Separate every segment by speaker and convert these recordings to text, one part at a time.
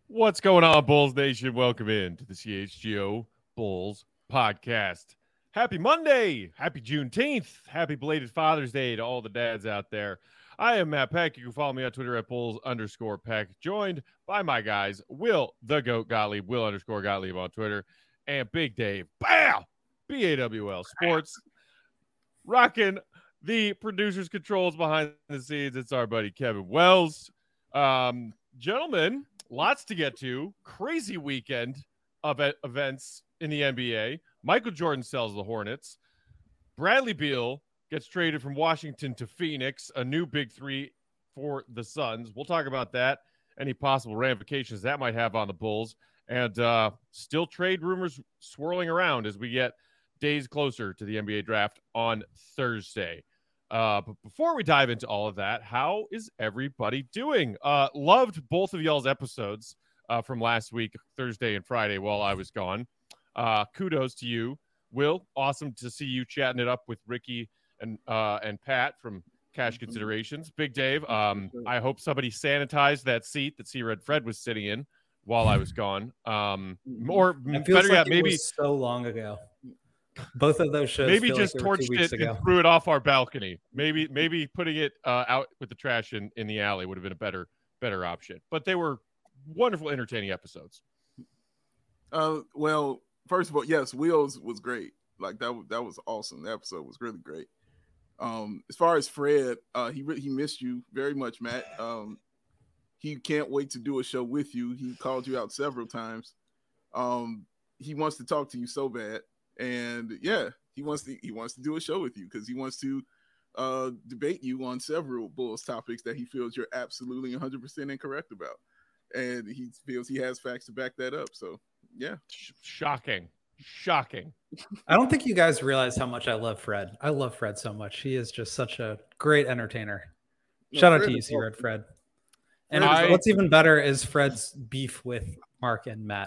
Speaker 1: What's going on, Bulls Nation? Welcome in to the CHGO Bulls podcast. Happy Monday. Happy Juneteenth. Happy belated Father's Day to all the dads out there. I am Matt Peck. You can follow me on Twitter at Bulls_Peck. Joined by my guys, Will the Goat Gottlieb, Will_Gottlieb on Twitter, and Big Dave, BAWL Sports. Rocking the producer's controls behind the scenes. It's our buddy Kevin Wells. Gentlemen, lots to get to. Crazy weekend of events in the NBA. Michael Jordan sells the Hornets. Bradley Beal gets traded from Washington to Phoenix, a new big three for the Suns. We'll talk about that, any possible ramifications that might have on the Bulls, and still trade rumors swirling around as we get days closer to the NBA draft on Thursday. But before we dive into all of that, how is everybody doing? Loved both of y'all's episodes from last week, Thursday and Friday, while I was gone. Kudos to you, Will. Awesome to see you chatting it up with Ricky and Pat from Cash Considerations. Big Dave, I hope somebody sanitized that seat that C-Red Fred was sitting in while I was gone. Or better yet, maybe
Speaker 2: so long ago. Both of those shows.
Speaker 1: Maybe just torched it and threw it off our balcony. Maybe putting it out with the trash in the alley would have been a better option. But they were wonderful, entertaining episodes.
Speaker 3: Well, first of all, yes, Wheels was great. Like that was awesome. The episode was really great. As far as Fred, he missed you very much, Matt. He can't wait to do a show with you. He called you out several times. He wants to talk to you so bad. And yeah, he wants to do a show with you because he wants to debate you on several Bulls topics that he feels you're absolutely 100% incorrect about, and he feels he has facts to back that up. So yeah,
Speaker 1: shocking.
Speaker 2: I don't think you guys realize how much I love Fred. I love Fred so much. He is just such a great entertainer. Shout out to you, C-Red Fred. And what's even better is Fred's beef with Mark and Matt.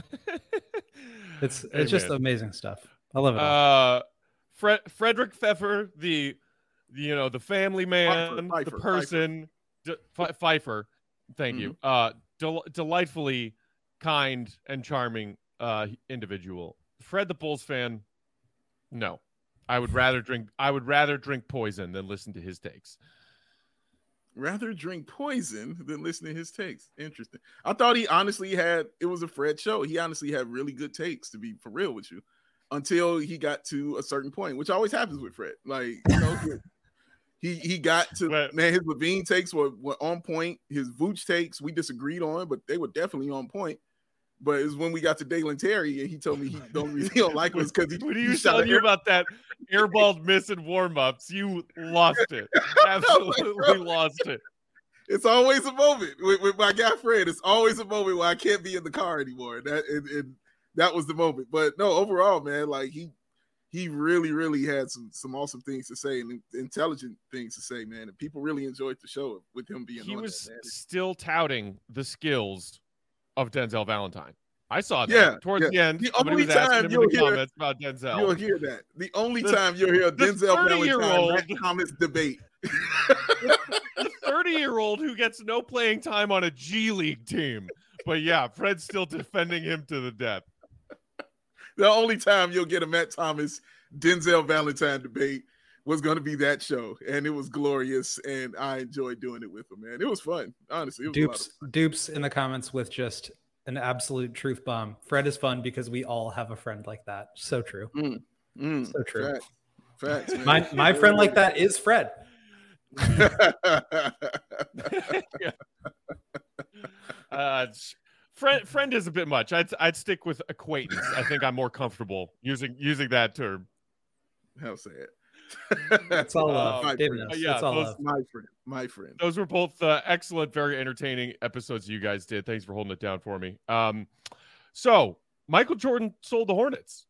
Speaker 2: It's just amazing stuff. I love it all.
Speaker 1: Frederick Pfeffer, the family man,
Speaker 3: Pfeiffer,
Speaker 1: the person, Pfeiffer. Thank you. Delightfully kind and charming individual. Fred the Bulls fan. No, I would rather drink poison than listen to his takes.
Speaker 3: Rather drink poison than listen to his takes. Interesting. I thought he honestly it was a Fred show. He honestly had really good takes, to be for real with you, until he got to a certain point, which always happens with Fred. Like, he got to, man, his Levine takes were on point. His Vooch takes we disagreed on, but they were definitely on point. But it was when we got to Dalen Terry and he told me he don't like us because
Speaker 1: when he was telling you about that airballed miss in warm-ups, you lost it. Absolutely lost it.
Speaker 3: It's always a moment with my guy Fred. It's always a moment where I can't be in the car anymore. That was the moment. But no, overall, man, like he really, really had some awesome things to say and intelligent things to say, man. And people really enjoyed the show with him being on.
Speaker 1: He was still touting the skills of Denzel Valentine. I saw that towards the end.
Speaker 3: The only time you'll hear
Speaker 1: comments about Denzel.
Speaker 3: You'll hear that. The only time you'll hear Denzel Valentine Thomas debate.
Speaker 1: The 30-year-old who gets no playing time on a G League team. But yeah, Fred's still defending him to the death.
Speaker 3: The only time you'll get a Matt Thomas Denzel Valentine debate was going to be that show, and it was glorious, and I enjoyed doing it with him, man. It was fun, honestly. It was
Speaker 2: Dupes in the comments with just an absolute truth bomb. Fred is fun because we all have a friend like that. So true. So true.
Speaker 3: Facts, man.
Speaker 2: My friend like that is Fred.
Speaker 1: Friend is a bit much. I'd stick with acquaintance. I think I'm more comfortable using that term.
Speaker 3: How say it?
Speaker 2: That's all love.
Speaker 1: Yeah,
Speaker 3: my friend.
Speaker 1: Those were both excellent, very entertaining episodes you guys did. Thanks for holding it down for me. So Michael Jordan sold the Hornets.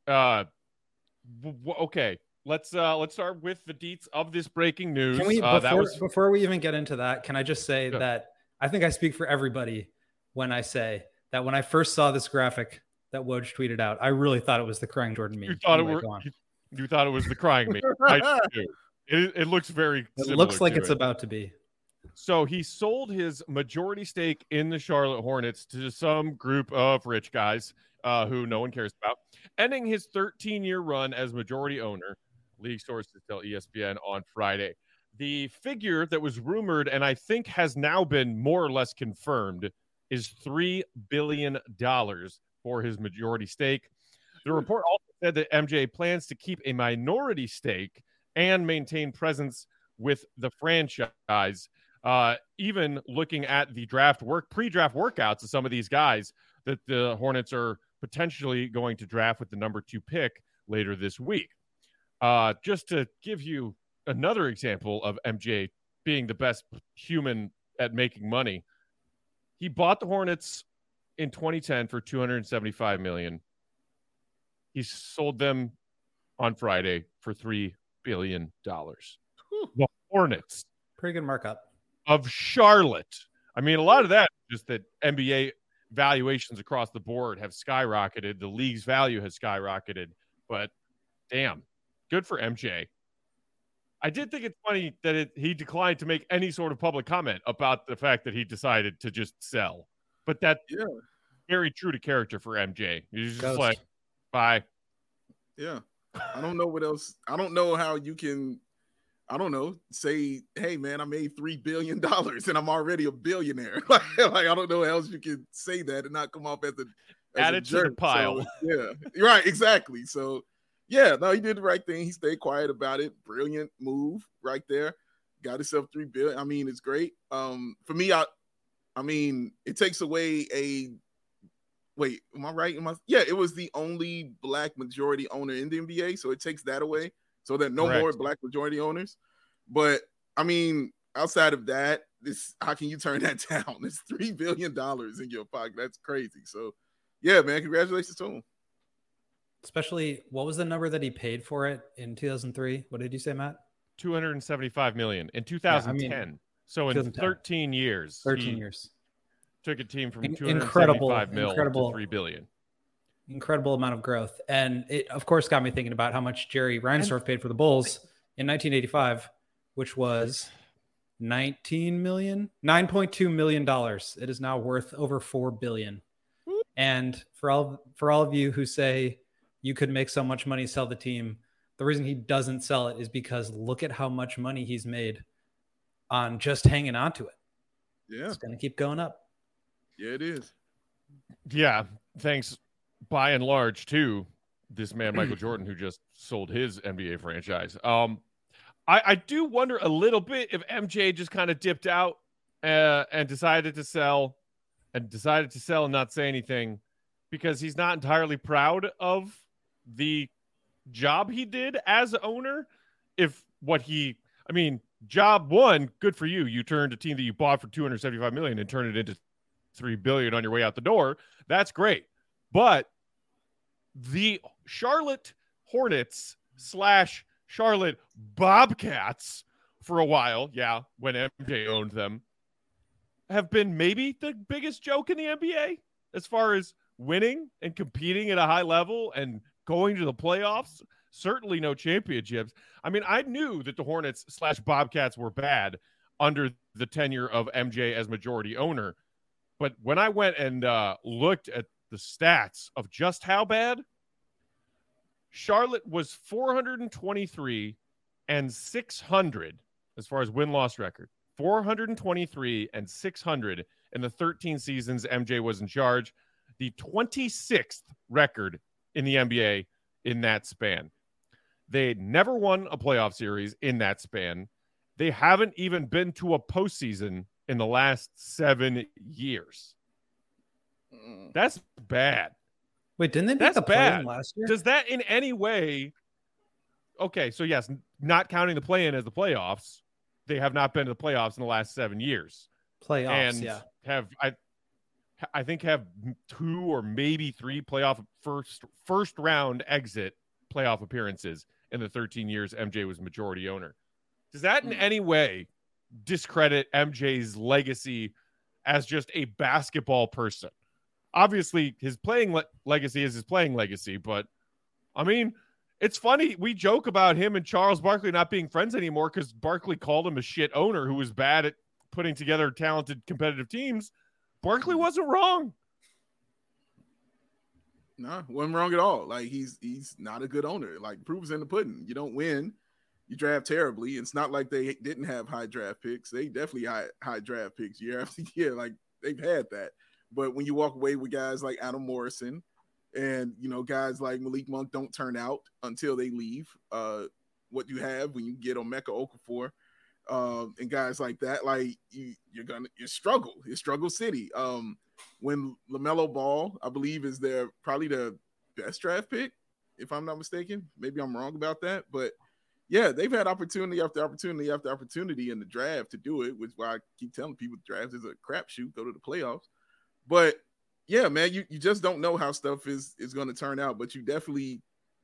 Speaker 1: Okay, let's start with the deets of this breaking news.
Speaker 2: Can we before we even get into that? Can I just say that I think I speak for everybody when I say that when I first saw this graphic that Woj tweeted out, I really thought it was the crying Jordan meme.
Speaker 1: You thought it was the crying meme. I do. It looks very.
Speaker 2: It looks like it's about to be.
Speaker 1: So he sold his majority stake in the Charlotte Hornets to some group of rich guys who no one cares about, ending his 13-year run as majority owner. League sources tell ESPN on Friday. The figure that was rumored and I think has now been more or less confirmed is $3 billion for his majority stake. The report also said that MJ plans to keep a minority stake and maintain presence with the franchise. Even looking at the pre-draft workouts of some of these guys that the Hornets are potentially going to draft with the number 2 pick later this week. Just to give you another example of MJ being the best human at making money, he bought the Hornets in 2010 for $275 million. He sold them on Friday for $3 billion. The Hornets.
Speaker 2: Pretty good markup.
Speaker 1: Of Charlotte. I mean, a lot of that is just that NBA valuations across the board have skyrocketed. The league's value has skyrocketed. But, damn, good for MJ. I did think it's funny that he declined to make any sort of public comment about the fact that he decided to just sell. But that's very true to character for MJ. He's just like, bye.
Speaker 3: Yeah. I don't know what else. I don't know how you can, say, hey, man, I made $3 billion and I'm already a billionaire. like, I don't know how else you can say that and not come off as
Speaker 1: add it to the pile.
Speaker 3: So, yeah, right, exactly. So, yeah, no, he did the right thing. He stayed quiet about it. Brilliant move right there. Got himself $3 billion. I mean, it's great. For me, I mean, it takes away wait, am I right? It was the only black majority owner in the NBA, so it takes that away. So that no more black majority owners. But I mean, outside of that, how can you turn that down? It's $3 billion in your pocket. That's crazy. So yeah, man, congratulations to him.
Speaker 2: Especially, what was the number that he paid for it in 2003? What did you say, Matt?
Speaker 1: $275 million in 2010. Yeah, so in 13 years.
Speaker 2: 13 years.
Speaker 1: Took a team from $275 million to $3 billion.
Speaker 2: Incredible amount of growth. And it, of course, got me thinking about how much Jerry Reinsdorf paid for the Bulls in 1985, which was $9.2 million. It is now worth over $4 billion. And for all of you who say you could make so much money, sell the team, the reason he doesn't sell it is because look at how much money he's made on just hanging on to it.
Speaker 3: Yeah.
Speaker 2: It's going to keep going up.
Speaker 3: Yeah, it is.
Speaker 1: Yeah. Thanks by and large to this man, Michael Jordan, who just sold his NBA franchise. I do wonder a little bit if MJ just kind of dipped out and decided to sell and not say anything because he's not entirely proud of the job he did as owner. Job one, good for you. You turned a team that you bought for $275 million and turned it into $3 billion on your way out the door. That's great. But the Charlotte Hornets / Charlotte Bobcats for a while, when MJ owned them, have been maybe the biggest joke in the NBA as far as winning and competing at a high level and going to the playoffs. Certainly no championships. I mean, I knew that the Hornets / Bobcats were bad under the tenure of MJ as majority owner. But when I went and looked at the stats of just how bad, Charlotte was 423 and 600 as far as win-loss record. 423 and 600 in the 13 seasons MJ was in charge. The 26th record in the NBA in that span. They never won a playoff series in that span. They haven't even been to a postseason in the last 7 years. That's bad.
Speaker 2: Wait, didn't they make the play-in last year?
Speaker 1: Does that in any way... Okay, so yes, not counting the play-in as the playoffs, they have not been to the playoffs in the last 7 years.
Speaker 2: Playoffs, and
Speaker 1: have I think have 2 or maybe 3 playoff first round exit playoff appearances in the 13 years MJ was majority owner. Does that in any way discredit MJ's legacy as just a basketball person? Obviously, his playing legacy is his playing legacy, but I mean, it's funny. We joke about him and Charles Barkley not being friends anymore because Barkley called him a shit owner who was bad at putting together talented competitive teams, Barkley wasn't wrong.
Speaker 3: No, wasn't wrong at all. Like he's not a good owner. Like proof is in the pudding. You don't win, you draft terribly. It's not like they didn't have high draft picks. They definitely high draft picks year after year. Like they've had that. But when you walk away with guys like Adam Morrison and guys like Malik Monk don't turn out until they leave, what you have when you get Emeka Okafor, and guys like that, like you struggle. It's struggle city. When LaMelo Ball, I believe, is probably the best draft pick, if I'm not mistaken. Maybe I'm wrong about that, but yeah, they've had opportunity after opportunity after opportunity in the draft to do it, which is why I keep telling people the draft is a crapshoot. Go to the playoffs, but yeah, man, you just don't know how stuff is going to turn out, but you definitely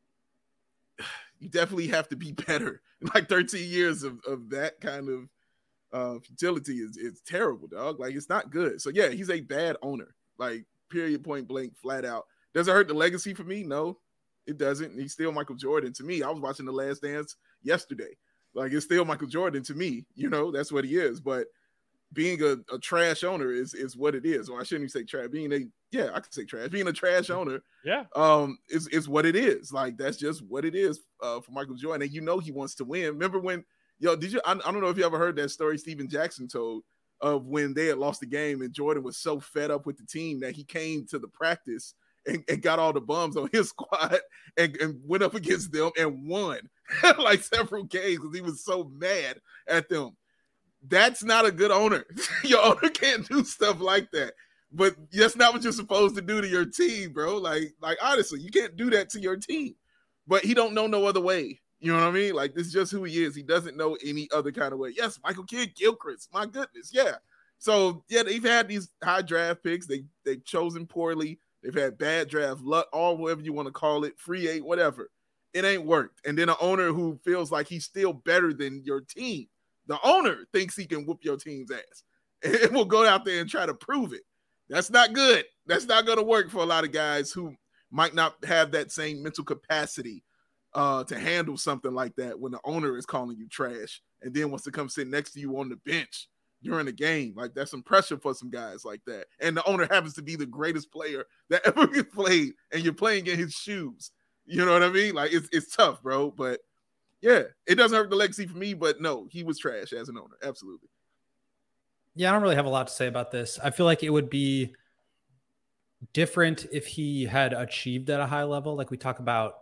Speaker 3: have to be better. Like 13 years of that kind of futility is terrible, dog. Like it's not good. So yeah, he's a bad owner. Like period, point blank, flat out. Does it hurt the legacy for me? No, it doesn't. He's still Michael Jordan to me. I was watching The Last Dance yesterday. Like it's still Michael Jordan to me. That's what he is. But being a trash owner is what it is. Or I shouldn't even say trash. I can say trash. Being a trash owner, is what it is. Like that's just what it is for Michael Jordan. And he wants to win. Remember when, did you? I don't know if you ever heard that story Steven Jackson told of when they had lost the game and Jordan was so fed up with the team that he came to the practice and got all the bums on his squad and went up against them and won like several games because he was so mad at them. That's not a good owner. Your owner can't do stuff like that. But that's not what you're supposed to do to your team, bro. Like honestly, you can't do that to your team. But he don't know no other way. You know what I mean? Like this is just who he is. He doesn't know any other kind of way. Yes, Michael Kidd-Gilchrist. My goodness, yeah. So yeah, they've had these high draft picks. They've chosen poorly. They've had bad draft luck, or whatever you want to call it, free agent, whatever. It ain't worked. And then an owner who feels like he's still better than your team. The owner thinks he can whoop your team's ass and will go out there and try to prove it. That's not good. That's not going to work for a lot of guys who might not have that same mental capacity to handle something like that when the owner is calling you trash and then wants to come sit next to you on the bench during the game. Like that's some pressure for some guys like that. And the owner happens to be the greatest player that ever played and you're playing in his shoes. You know what I mean? Like it's tough, bro. But yeah, it doesn't hurt the legacy for me, but no, he was trash as an owner. Absolutely.
Speaker 2: Yeah, I don't really have a lot to say about this. I feel like it would be different if he had achieved at a high level. Like we talk about,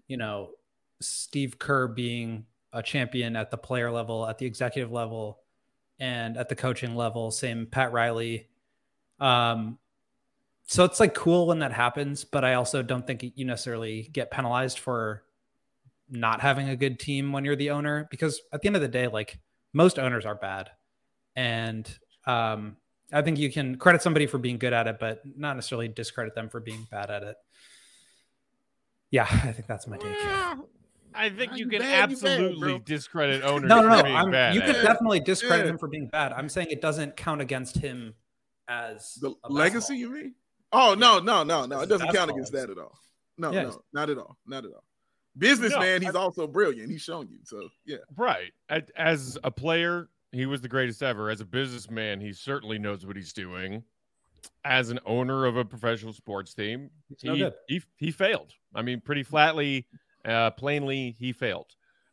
Speaker 2: Steve Kerr being a champion at the player level, at the executive level, and at the coaching level. Same Pat Riley. So it's like cool when that happens, but I also don't think you necessarily get penalized for not having a good team when you're the owner, because at the end of the day, like most owners are bad. And I think you can credit somebody for being good at it, but not necessarily discredit them for being bad at it. Yeah, I think that's my take.
Speaker 1: I think you can absolutely discredit owners.
Speaker 2: No.
Speaker 1: For being bad
Speaker 2: you can definitely discredit him for being bad. I'm saying it doesn't count against him as
Speaker 3: the legacy. You mean? Oh no! It doesn't count against that at all. No, not at all. Not at all. Businessman, he's also brilliant. He's shown you. So yeah,
Speaker 1: right. As a player, he was the greatest ever. As a businessman, he certainly knows what he's doing. As an owner of a professional sports team, he failed. I mean, pretty flatly, plainly, he failed.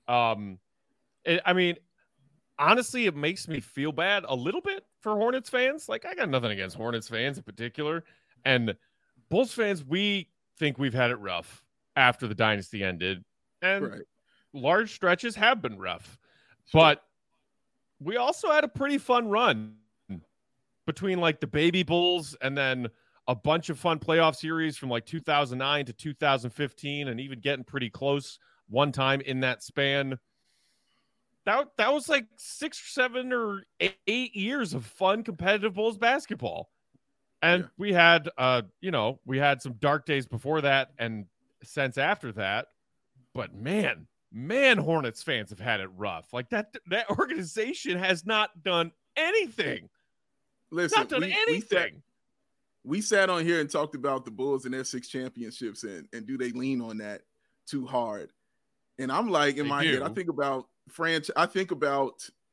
Speaker 1: Honestly, it makes me feel bad a little bit for Hornets fans. Like, I got nothing against Hornets fans in particular. And Bulls fans, we think we've had it rough after the dynasty ended. And large stretches have been rough. But we also had a pretty fun run between like the baby Bulls and then a bunch of fun playoff series from like 2009 to 2015 and even getting pretty close one time in that span. That was like 6 or 7 or 8 years of fun competitive Bulls basketball. And we had we had some dark days before that and since after that. But man, Hornets fans have had it rough. Like that organization has not done anything.
Speaker 3: Listen,
Speaker 1: not done anything.
Speaker 3: We sat on here and talked about the Bulls and their 6 championships and do they lean on that too hard? And I'm like, in my head, I think about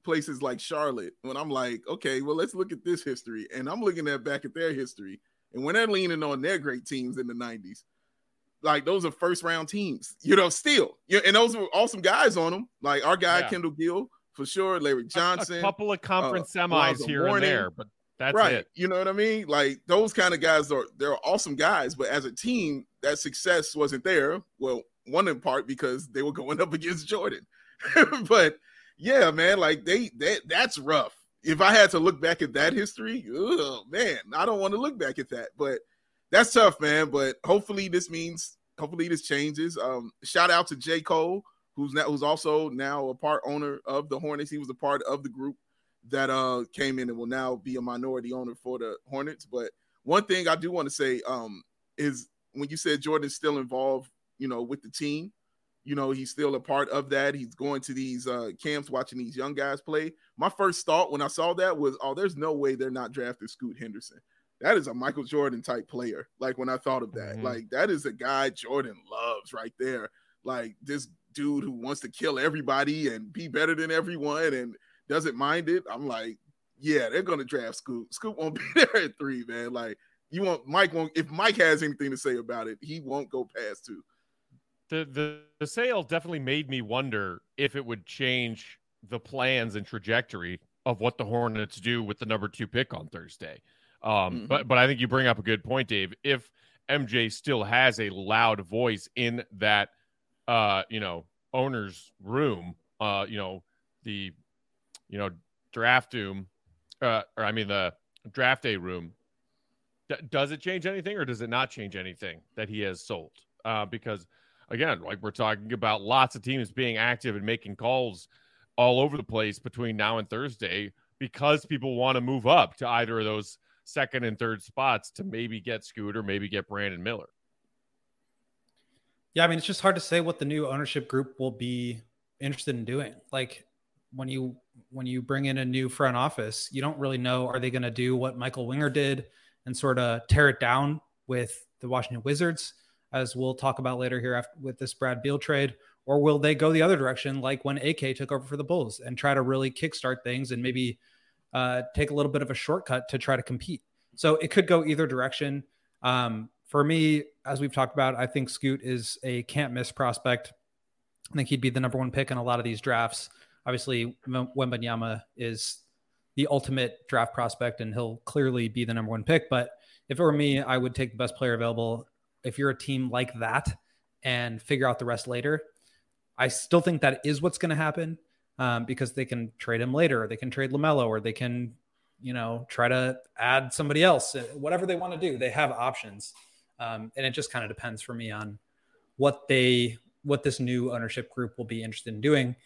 Speaker 3: places like Charlotte, when I'm like, okay, well, let's look at this history. And I'm looking back at their history. And when they're leaning on their great teams in the 90s, like those are first round teams, still. Yeah, and those were awesome guys on them. Like our guy, Kendall Gill, for sure, Larry Johnson.
Speaker 1: A couple of conference semis here and there, but that's
Speaker 3: right.
Speaker 1: it.
Speaker 3: You know what I mean? Like those kind of guys they're awesome guys, but as a team, that success wasn't there. Well, one in part because they were going up against Jordan. But yeah, man, like that's rough. If I had to look back at that history, oh man, I don't want to look back at that. But that's tough, man. But hopefully this changes. Shout out to J. Cole, who's also now a part owner of the Hornets. He was a part of the group that came in and will now be a minority owner for the Hornets. But one thing I do want to say is when you said Jordan's still involved, with the team, he's still a part of that. He's going to these camps, watching these young guys play. My first thought when I saw that was, oh, there's no way they're not drafting Scoot Henderson. That is a Michael Jordan type player. Like when I thought of that, like that is a guy Jordan loves right there. Like this dude who wants to kill everybody and be better than everyone and doesn't mind it. I'm like, yeah, they're going to draft Scoot. Scoot won't be there at 3, man. Like if Mike has anything to say about it, he won't go past 2.
Speaker 1: The sale definitely made me wonder if it would change the plans and trajectory of what the Hornets do with the number 2 pick on Thursday. But I think you bring up a good point, Dave. If MJ still has a loud voice in that, owner's room, the draft room, the draft day room, does it change anything or does it not change anything that he has sold? Because again, like we're talking about lots of teams being active and making calls all over the place between now and Thursday because people want to move up to either of those second and third spots to maybe get Scoot or maybe get Brandon Miller.
Speaker 2: Yeah, I mean, it's just hard to say what the new ownership group will be interested in doing. Like when you bring in a new front office, you don't really know, are they going to do what Michael Winger did and sort of tear it down with the Washington Wizards, as we'll talk about later here with this Brad Beal trade, or will they go the other direction like when AK took over for the Bulls and try to really kickstart things and maybe take a little bit of a shortcut to try to compete? So it could go either direction. For me, as we've talked about, I think Scoot is a can't miss prospect. I think he'd be the number 1 pick in a lot of these drafts. Obviously, Wembanyama is the ultimate draft prospect, and he'll clearly be the number 1 pick. But if it were me, I would take the best player available. If you're a team like that and figure out the rest later, I still think that is what's going to happen because they can trade him later, or they can trade LaMelo, or they can, try to add somebody else. Whatever they want to do, they have options. And it just kind of depends for me on what this new ownership group will be interested in doing.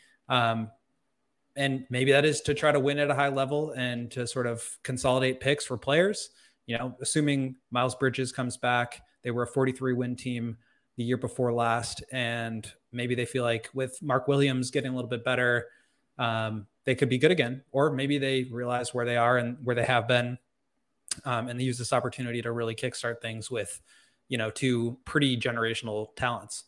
Speaker 2: And maybe that is to try to win at a high level and to sort of consolidate picks for players, assuming Miles Bridges comes back. They were a 43-win team the year before last, and maybe they feel like with Mark Williams getting a little bit better, they could be good again. Or maybe they realize where they are and where they have been, and they use this opportunity to really kickstart things with, 2 pretty generational talents.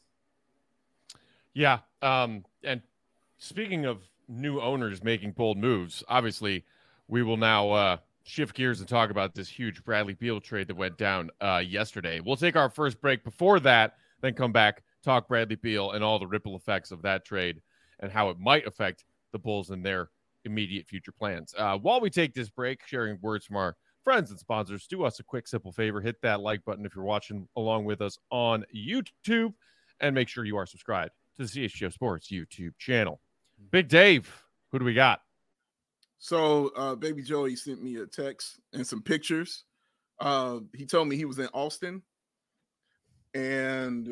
Speaker 1: Yeah. And speaking of new owners making bold moves, obviously we will now shift gears and talk about this huge Bradley Beal trade that went down yesterday. We'll take our first break before that, then come back, talk Bradley Beal and all the ripple effects of that trade and how it might affect the Bulls and their immediate future plans. While we take this break, sharing words from our friends and sponsors, do us a quick, simple favor. Hit that like button if you're watching along with us on YouTube, and make sure you are subscribed to the CHGO Sports YouTube channel. Big Dave, who do we got?
Speaker 3: So Baby Joey sent me a text and some pictures. He told me he was in Austin. And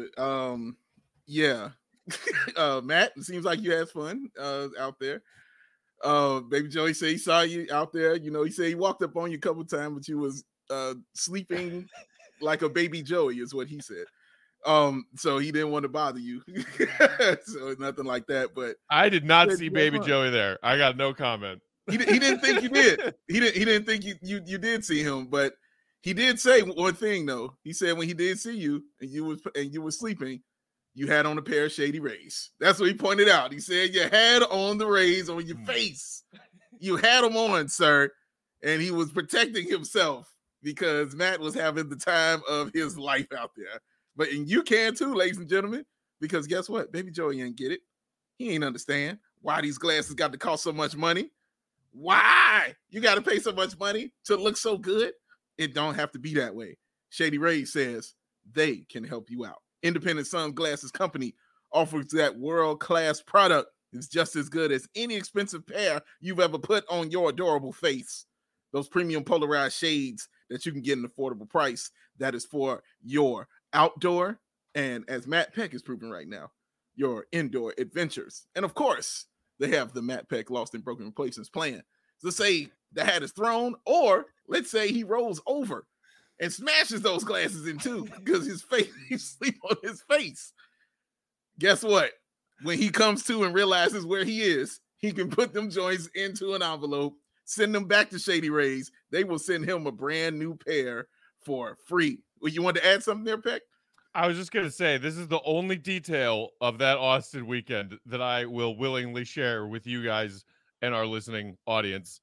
Speaker 3: yeah, Matt, it seems like you had fun out there. Baby Joey said he saw you out there. He said he walked up on you a couple times, but you was sleeping like a baby Joey is what he said. So he didn't want to bother you. So it's nothing like that. But
Speaker 1: I did not see Baby Joey there. I got no comment.
Speaker 3: He didn't think you did. He didn't think you did see him, but he did say one thing though. He said when he did see you and you were sleeping, you had on a pair of Shady Rays. That's what he pointed out. He said you had on the Rays on your face. You had him on, sir, and he was protecting himself because Matt was having the time of his life out there. But and you can too, ladies and gentlemen, because guess what? Baby Joey ain't get it. He ain't understand why these glasses got to cost so much money. Why you got to pay so much money to look so good? It don't have to be that way. Shady Rays says they can help you out. Independent Sunglasses Company offers that world-class product. It's just as good as any expensive pair you've ever put on your adorable face. Those premium polarized shades that you can get an affordable price that is for your outdoor and, as Matt Peck is proving right now, your indoor adventures. And of course, they have the Matt Peck Lost and Broken Replacements plan. So say the hat is thrown, or let's say he rolls over and smashes those glasses in two because his face, he sleep on his face. Guess what? When he comes to and realizes where he is, he can put them joints into an envelope, send them back to Shady Rays. They will send him a brand new pair for free. Well, you want to add something there, Peck?
Speaker 1: I was just going to say, this is the only detail of that Austin weekend that I will willingly share with you guys and our listening audience.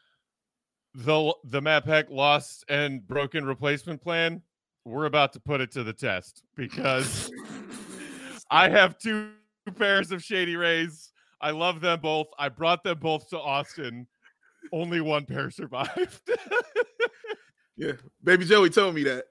Speaker 1: The Matt Peck Lost and Broken Replacement plan, we're about to put it to the test because I have two pairs of Shady Rays. I love them both. I brought them both to Austin. Only one pair survived.
Speaker 3: Yeah, Baby Joey told me that.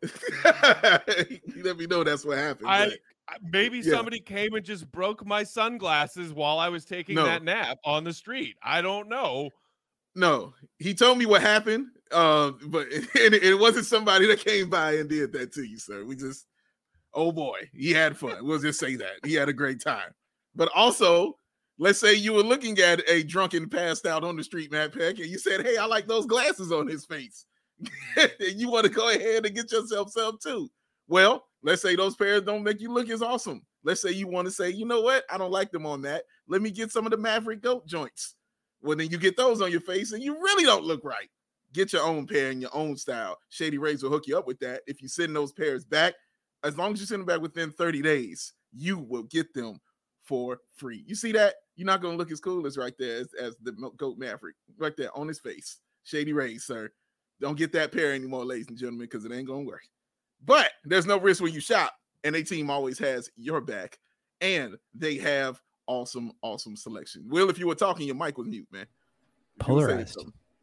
Speaker 3: He let me know that's what happened.
Speaker 1: Maybe somebody came and just broke my sunglasses while I was taking that nap on the street. I don't know.
Speaker 3: No, he told me what happened, but it wasn't somebody that came by and did that to you, sir. Oh boy, he had fun. We'll just say that. He had a great time. But also, let's say you were looking at a drunken passed out on the street, Matt Peck, and you said, hey, I like those glasses on his face. And you want to go ahead and get yourself some too. Well, let's say those pairs don't make you look as awesome. Let's say you want to say, you know what? I don't like them on that. Let me get some of the Maverick Goat joints. Well, then you get those on your face and you really don't look right. Get your own pair in your own style. Shady Rays will hook you up with that. If you send those pairs back, as long as you send them back within 30 days, you will get them for free. You see that? You're not going to look as cool as right there as the Goat Maverick. Right there on his face. Shady Rays, sir. Don't get that pair anymore, ladies and gentlemen, because it ain't going to work. But there's no risk when you shop, and their team always has your back, and they have awesome selection. Will, if you were talking, your mic was mute, man.
Speaker 2: Polarized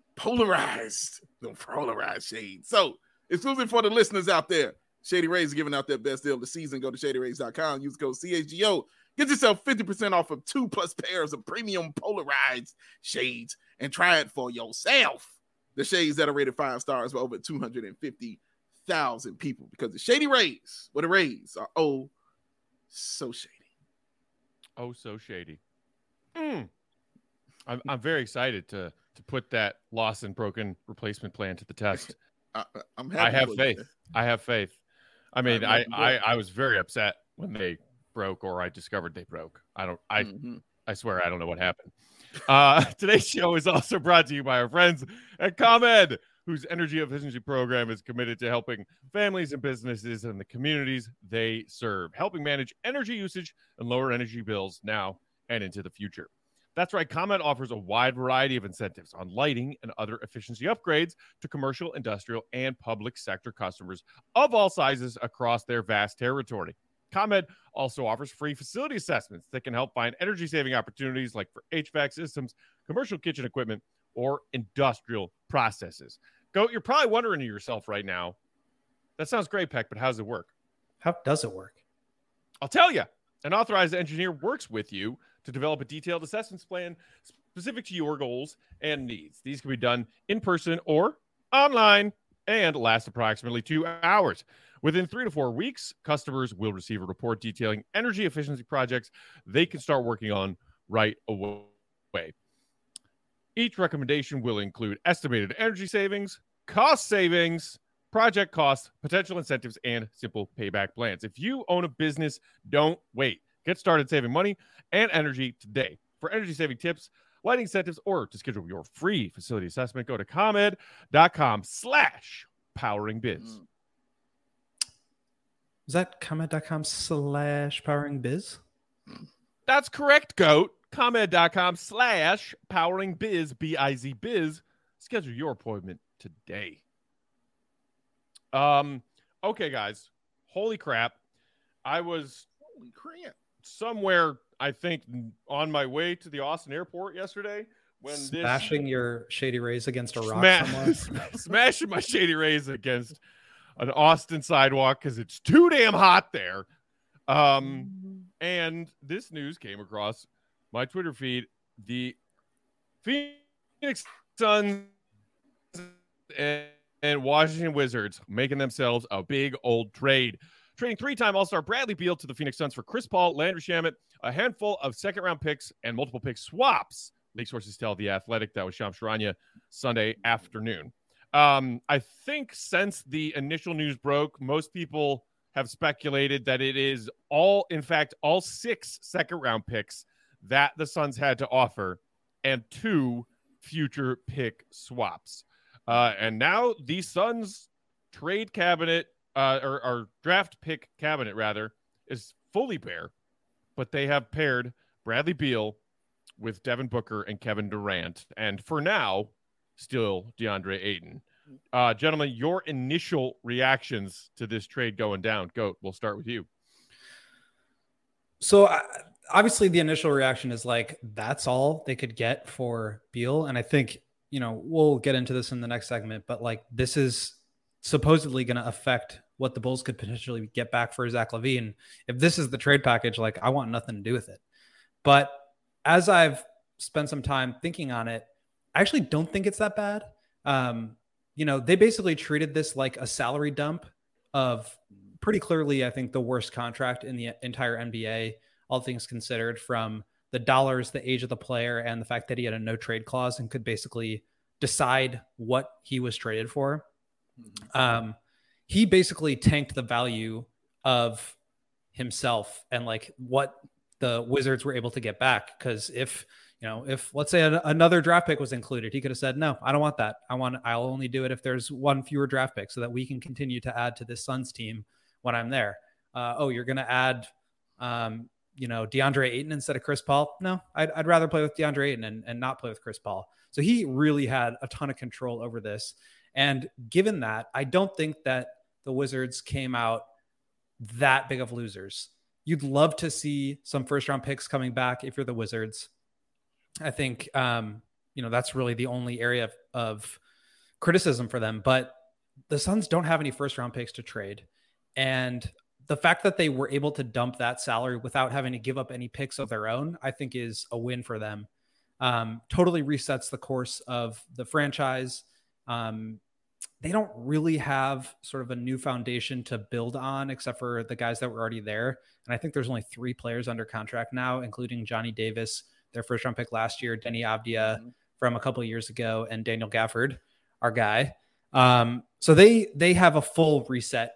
Speaker 3: The polarized shade. So, exclusive for the listeners out there, Shady Rays is giving out their best deal of the season. Go to shadyrays.com, use code CHGO. Get yourself 50% off of 2+ pairs of premium polarized shades and try it for yourself. The shades that are rated 5 stars by over 250,000 people, because the Shady Rays, the Rays are so shady.
Speaker 1: Oh, so shady. I'm very excited to put that Lost and Broken Replacement plan to the test.
Speaker 3: I'm happy.
Speaker 1: I have faith. I mean, I was very upset when they broke, or I discovered they broke. I swear I don't know what happened. Today's show is also brought to you by our friends at ComEd, whose energy efficiency program is committed to helping families and businesses in the communities they serve, helping manage energy usage and lower energy bills now and into the future. That's right. ComEd offers a wide variety of incentives on lighting and other efficiency upgrades to commercial, industrial, and public sector customers of all sizes across their vast territory. ComEd also offers free facility assessments that can help find energy-saving opportunities like for HVAC systems, commercial kitchen equipment, or industrial processes. You're probably wondering to yourself right now, that sounds great, Peck, but how does it work?
Speaker 2: How does it work?
Speaker 1: I'll tell you. An authorized engineer works with you to develop a detailed assessments plan specific to your goals and needs. These can be done in person or online and last approximately 2 hours. Within 3 to 4 weeks, customers will receive a report detailing energy efficiency projects they can start working on right away. Each recommendation will include estimated energy savings, cost savings, project costs, potential incentives, and simple payback plans. If you own a business, don't wait. Get started saving money and energy today. For energy-saving tips, lighting incentives, or to schedule your free facility assessment, go to ComEd.com/poweringbiz.
Speaker 2: Is that ComEd.com/poweringbiz?
Speaker 1: That's correct, Goat. ComEd.com/poweringbiz, B-I-Z biz. Schedule your appointment today. Okay, guys. Holy crap. I was somewhere, I think, on my way to the Austin airport yesterday when
Speaker 2: smashing your Shady Rays against a rock somewhere.
Speaker 1: Smashing my Shady Rays against an Austin sidewalk because it's too damn hot there. And this news came across my Twitter feed. The Phoenix Suns and Washington Wizards making themselves a big old trade. Trading three-time All-Star Bradley Beal to the Phoenix Suns for Chris Paul, Landry Shamet, a handful of second-round picks, and multiple pick swaps. League sources tell The Athletic. That was Shams Charania Sunday afternoon. I think since the initial news broke, most people have speculated that it is all 6 second-round picks that the Suns had to offer and 2 future pick swaps. And now the Suns trade cabinet, or draft pick cabinet, rather, is fully bare, but they have paired Bradley Beal with Devin Booker and Kevin Durant. And for now, still DeAndre Ayton. Gentlemen, your initial reactions to this trade going down. Goat, we'll start with you.
Speaker 2: So obviously the initial reaction is like, that's all they could get for Beal. And I think, we'll get into this in the next segment, but like, this is supposedly going to affect what the Bulls could potentially get back for Zach LaVine. If this is the trade package, like, I want nothing to do with it. But as I've spent some time thinking on it, I actually don't think it's that bad. They basically treated this like a salary dump of pretty clearly, I think, the worst contract in the entire NBA, all things considered, from the dollars, the age of the player, and the fact that he had a no trade clause and could basically decide what he was traded for. He basically tanked the value of himself and like what the Wizards were able to get back. Because if let's say another draft pick was included, he could have said, no, I don't want that. I'll only do it if there's one fewer draft pick so that we can continue to add to this Suns team when I'm there. You're going to add, DeAndre Ayton instead of Chris Paul. No, I'd rather play with DeAndre Ayton and not play with Chris Paul. So he really had a ton of control over this. And given that, I don't think that the Wizards came out that big of losers. You'd love to see some first round picks coming back if you're the Wizards. I think, that's really the only area of criticism for them. But the Suns don't have any first round picks to trade. And the fact that they were able to dump that salary without having to give up any picks of their own, I think is a win for them. Totally resets the course of the franchise. They don't really have sort of a new foundation to build on except for the guys that were already there. And I think there's only 3 players under contract now, including Johnny Davis, their first round pick last year, Denny Avdia from a couple of years ago, and Daniel Gafford, our guy. So they have a full reset.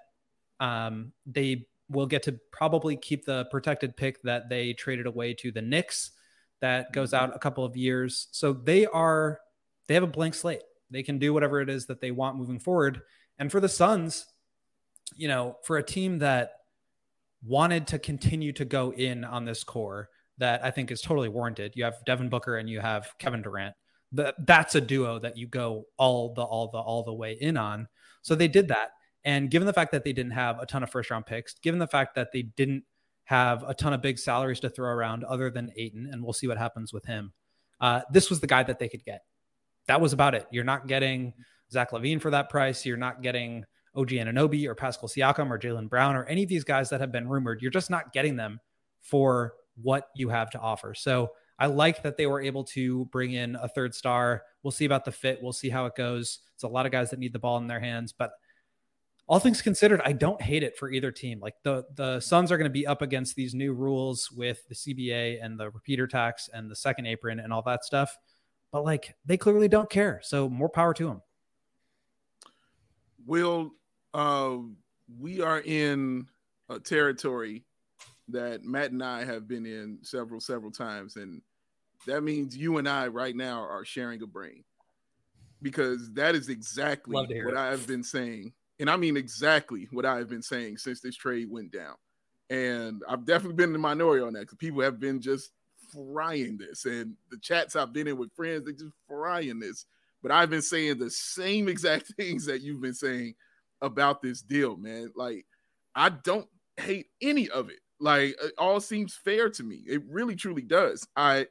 Speaker 2: They will get to probably keep the protected pick that they traded away to the Knicks that goes out a couple of years. So they have a blank slate. They can do whatever it is that they want moving forward. And for the Suns, for a team that wanted to continue to go in on this core that I think is totally warranted. You have Devin Booker and you have Kevin Durant. That's a duo that you go all the way in on. So they did that. And given the fact that they didn't have a ton of first round picks, given the fact that they didn't have a ton of big salaries to throw around other than Ayton, and we'll see what happens with him. This was the guy that they could get. That was about it. You're not getting Zach LaVine for that price. You're not getting OG Anunoby or Pascal Siakam or Jaylen Brown or any of these guys that have been rumored. You're just not getting them for what you have to offer. So I like that they were able to bring in a third star. We'll see about the fit. We'll see how it goes. It's a lot of guys that need the ball in their hands, but all things considered, I don't hate it for either team. Like the Suns are going to be up against these new rules with the CBA and the repeater tax and the second apron and all that stuff. But like, they clearly don't care. So more power to them.
Speaker 3: Will, we are in a territory that Matt and I have been in several times. And that means you and I right now are sharing a brain, because that is exactly what I've been saying. And I mean exactly what I've been saying since this trade went down. And I've definitely been in the minority on that, because people have been just frying this, and the chats I've been in with friends, they just frying this. But I've been saying the same exact things that you've been saying about this deal, man. Like, I don't hate any of it. Like, it all seems fair to me. It really, truly does.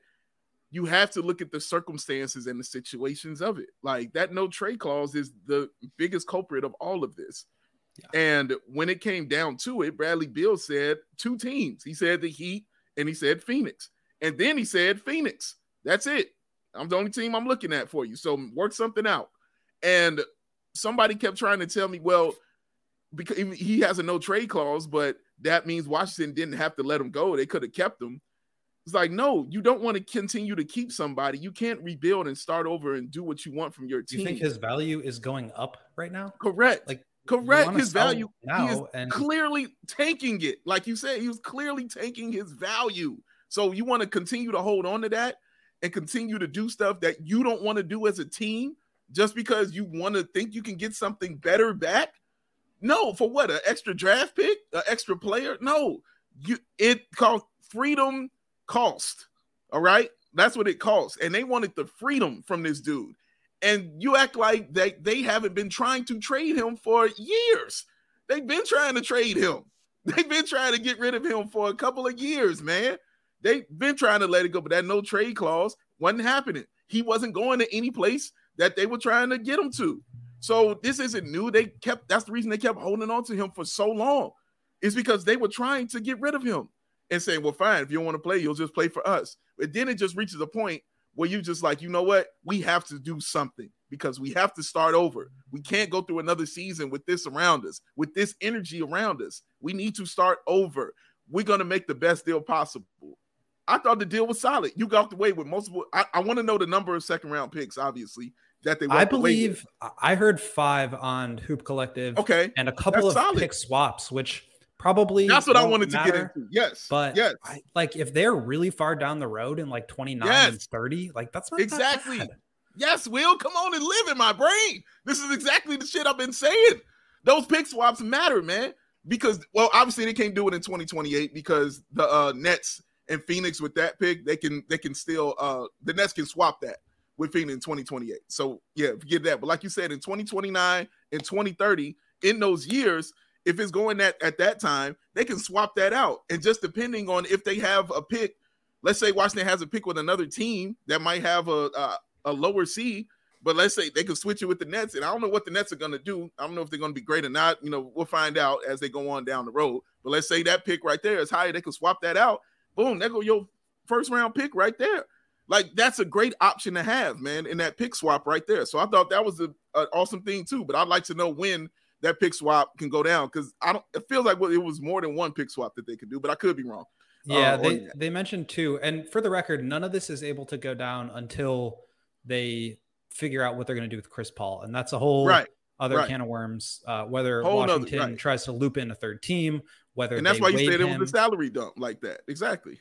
Speaker 3: You have to look at the circumstances and the situations of it. Like, that no trade clause is the biggest culprit of all of this. Yeah. And when it came down to it, Bradley Beal said 2 teams. He said the Heat and he said Phoenix. And then he said Phoenix. That's it. I'm the only team I'm looking at for you. So work something out. And somebody kept trying to tell me, well, because he has a no trade clause, but that means Washington didn't have to let him go. They could have kept him. It's like, no, you don't want to continue to keep somebody. You can't rebuild and start over and do what you want from your team.
Speaker 2: Do you think his value is going up right now?
Speaker 3: Correct. Correct. His value
Speaker 2: now
Speaker 3: is clearly tanking it. Like you said, he was clearly tanking his value. So you want to continue to hold on to that and continue to do stuff that you don't want to do as a team just because you want to think you can get something better back? No, for what? An extra draft pick? An extra player? No. It called freedom cost. All right? That's what it costs. And they wanted the freedom from this dude. And you act like they haven't been trying to trade him for years. They've been trying to trade him. They've been trying to get rid of him for a couple of years, man. They've been trying to let it go, but that no trade clause wasn't happening. He wasn't going to any place that they were trying to get him to. So this isn't new. That's the reason they kept holding on to him for so long. It's because they were trying to get rid of him and saying, well, fine, if you don't want to play, you'll just play for us. But then it just reaches a point where you just like, you know what? We have to do something because we have to start over. We can't go through another season with this around us, with this energy around us. We need to start over. We're going to make the best deal possible. I thought the deal was solid. You got away with multiple. I want to know the number of second-round picks, obviously, that they
Speaker 2: I believe I heard 5 on Hoop Collective.
Speaker 3: Okay.
Speaker 2: And a couple of pick swaps, which probably
Speaker 3: that's what I wanted to get into. Yes.
Speaker 2: But yes. If they're really far down the road in like 29 and 30, like that's not
Speaker 3: exactly.
Speaker 2: That bad.
Speaker 3: Yes, Will, come on and live in my brain. This is exactly the shit I've been saying. Those pick swaps matter, man. Because, well, obviously they can't do it in 2028 because the Nets and Phoenix with that pick, they can still the Nets can swap that with Phoenix in 2028. So yeah, forget that. But like you said, in 2029 and 2030, in those years, if it's going at that time, they can swap that out. And just depending on if they have a pick, let's say Washington has a pick with another team that might have a lower seed, but let's say they can switch it with the Nets. And I don't know what the Nets are going to do. I don't know if they're going to be great or not. You know, we'll find out as they go on down the road. But let's say that pick right there is higher. They can swap that out. Boom, there go your first round pick right there. Like, that's a great option to have, man, in that pick swap right there. So I thought that was an awesome thing too. But I'd like to know when that pick swap can go down because it feels like it was more than one pick swap that they could do, but I could be wrong.
Speaker 2: Yeah, they mentioned 2. And for the record, none of this is able to go down until they figure out what they're going to do with Chris Paul. And that's a whole other can of worms, whether Washington tries to loop in a third team, whether
Speaker 3: and that's why you said it was a salary dump like that. Exactly.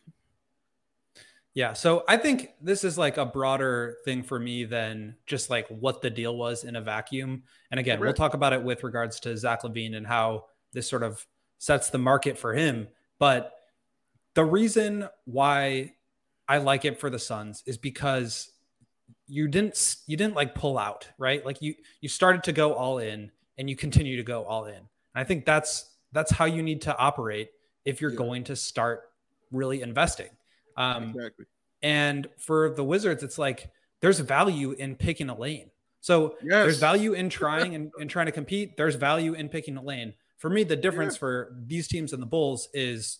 Speaker 2: Yeah. So I think this is like a broader thing for me than just like what the deal was in a vacuum. And again, we'll talk about it with regards to Zach LaVine and how this sort of sets the market for him. But the reason why I like it for the Suns is because you didn't like pull out, right? Like you started to go all in and you continue to go all in. And I think that's how you need to operate if you're going to start really investing.
Speaker 3: Exactly.
Speaker 2: And for the Wizards, it's like there's value in picking a lane. So there's value in trying and trying to compete. There's value in picking a lane. For me, the difference for these teams and the Bulls is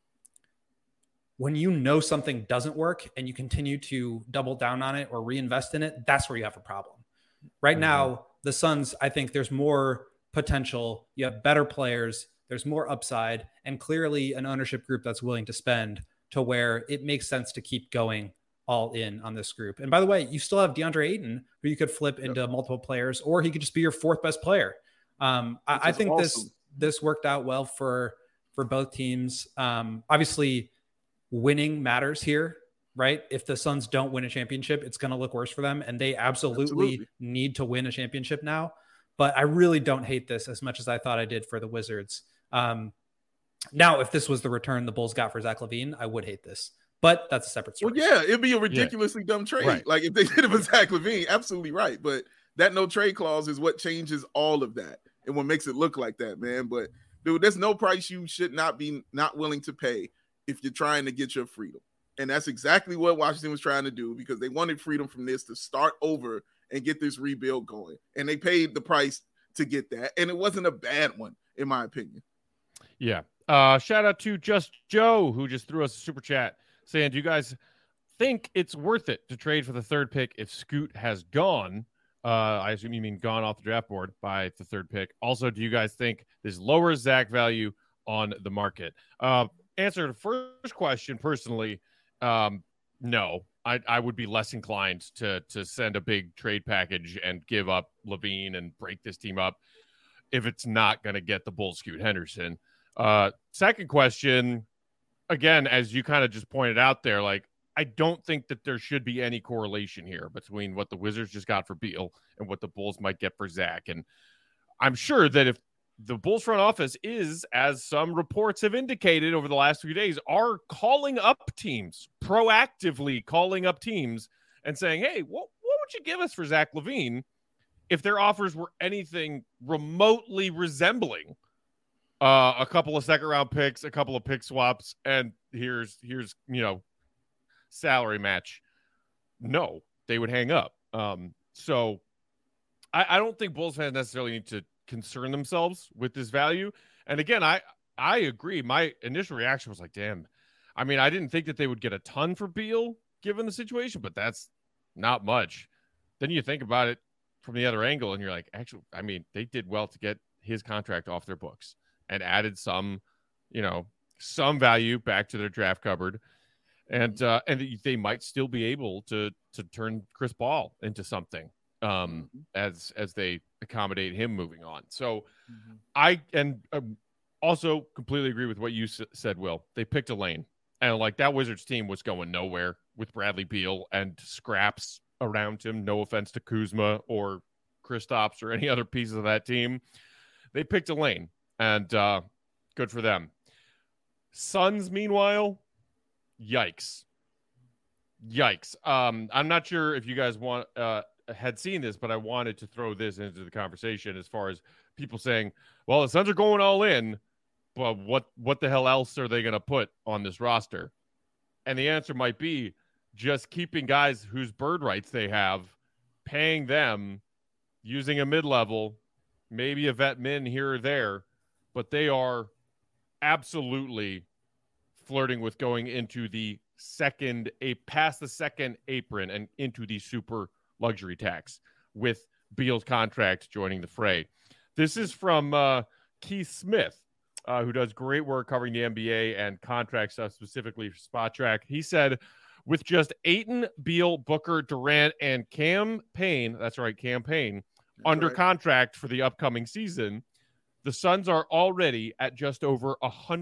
Speaker 2: when you know something doesn't work and you continue to double down on it or reinvest in it, that's where you have a problem. Right now, the Suns, I think there's more potential. You have better players. There's more upside and clearly an ownership group that's willing to spend to where it makes sense to keep going all in on this group. And by the way, you still have DeAndre Ayton, who you could flip into multiple players, or he could just be your 4th best player. I think awesome. This worked out well for both teams. Obviously, winning matters here, right? If the Suns don't win a championship, it's going to look worse for them, and they absolutely need to win a championship now. But I really don't hate this as much as I thought I did for the Wizards. Now, if this was the return the Bulls got for Zach LaVine, I would hate this. But that's a separate story.
Speaker 3: Well, yeah, it'd be a ridiculously dumb trade.
Speaker 1: Right.
Speaker 3: Like if they did it with Zach LaVine, absolutely right. But that no trade clause is what changes all of that and what makes it look like that, man. But dude, there's no price you should not be not willing to pay if you're trying to get your freedom. And that's exactly what Washington was trying to do because they wanted freedom from this to start over and get this rebuild going. And they paid the price to get that. And it wasn't a bad one, in my opinion.
Speaker 1: Yeah. Shout out to Just Joe, who just threw us a super chat saying, do you guys think it's worth it to trade for the third pick if Scoot has gone? I assume you mean gone off the draft board by the third pick. Also, do you guys think this lowers Zach value on the market? Answer to the first question, personally, no. I would be less inclined to send a big trade package and give up LaVine and break this team up if it's not going to get the Bulls Scoot Henderson. Second question, again, as you kind of just pointed out there, like, I don't think that there should be any correlation here between what the Wizards just got for Beal and what the Bulls might get for Zach. And I'm sure that if the Bulls front office is, as some reports have indicated over the last few days, are calling up teams, proactively calling up teams and saying, hey, what would you give us for Zach LaVine if their offers were anything remotely resembling a couple of second-round picks, a couple of pick swaps, and here's salary match? No, they would hang up. So I don't think Bulls fans necessarily need to concern themselves with this value. And again, I agree. My initial reaction was like, damn. I mean, I didn't think that they would get a ton for Beal given the situation, but that's not much. Then you think about it from the other angle and you're like, actually, I mean, they did well to get his contract off their books and added some value back to their draft cupboard. And they might still be able to turn Chris Paul into something as they accommodate him moving on. So I also completely agree with what you said, Will. They picked a lane, and like that Wizards team was going nowhere with Bradley Beal and scraps around him. No offense to Kuzma or Kristaps or any other pieces of that team. They picked a lane, and good for them. Suns, meanwhile, yikes. I'm not sure if you guys had seen this, but I wanted to throw this into the conversation as far as people saying, well, the Suns are going all in, but what the hell else are they going to put on this roster? And the answer might be just keeping guys whose bird rights they have, paying them, using a mid-level, maybe a vet min here or there, but they are absolutely flirting with going into past the second apron and into the super luxury tax with Beal's contract joining the fray. This is from Keith Smith, who does great work covering the NBA and contract stuff specifically for Spot Track. He said, with just Ayton, Beal, Booker, Durant, and Cam Payne, under contract for the upcoming season, the Suns are already at just over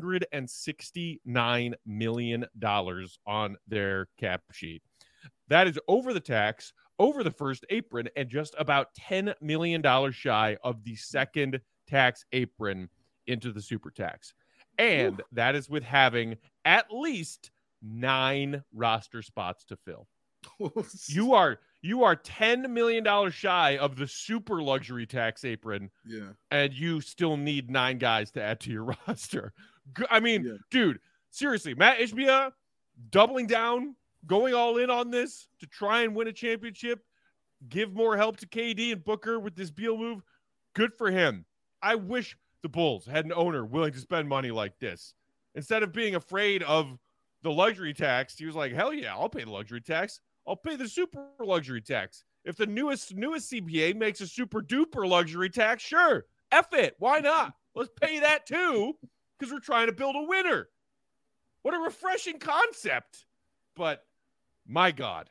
Speaker 1: $169 million on their cap sheet. That is over the tax, over the first apron, and just about $10 million shy of the second tax apron into the super tax. And that is with having at least 9 roster spots to fill. You are $10 million shy of the super luxury tax apron.
Speaker 3: Yeah.
Speaker 1: And you still need 9 guys to add to your roster. I mean, dude, seriously, Matt Ishbia doubling down, going all in on this to try and win a championship, give more help to KD and Booker with this Beal move. Good for him. I wish the Bulls had an owner willing to spend money like this. Instead of being afraid of the luxury tax, he was like, hell yeah, I'll pay the luxury tax. I'll pay the super luxury tax. If the newest CBA makes a super duper luxury tax, sure. F it. Why not? Let's pay that too, because we're trying to build a winner. What a refreshing concept. But my God,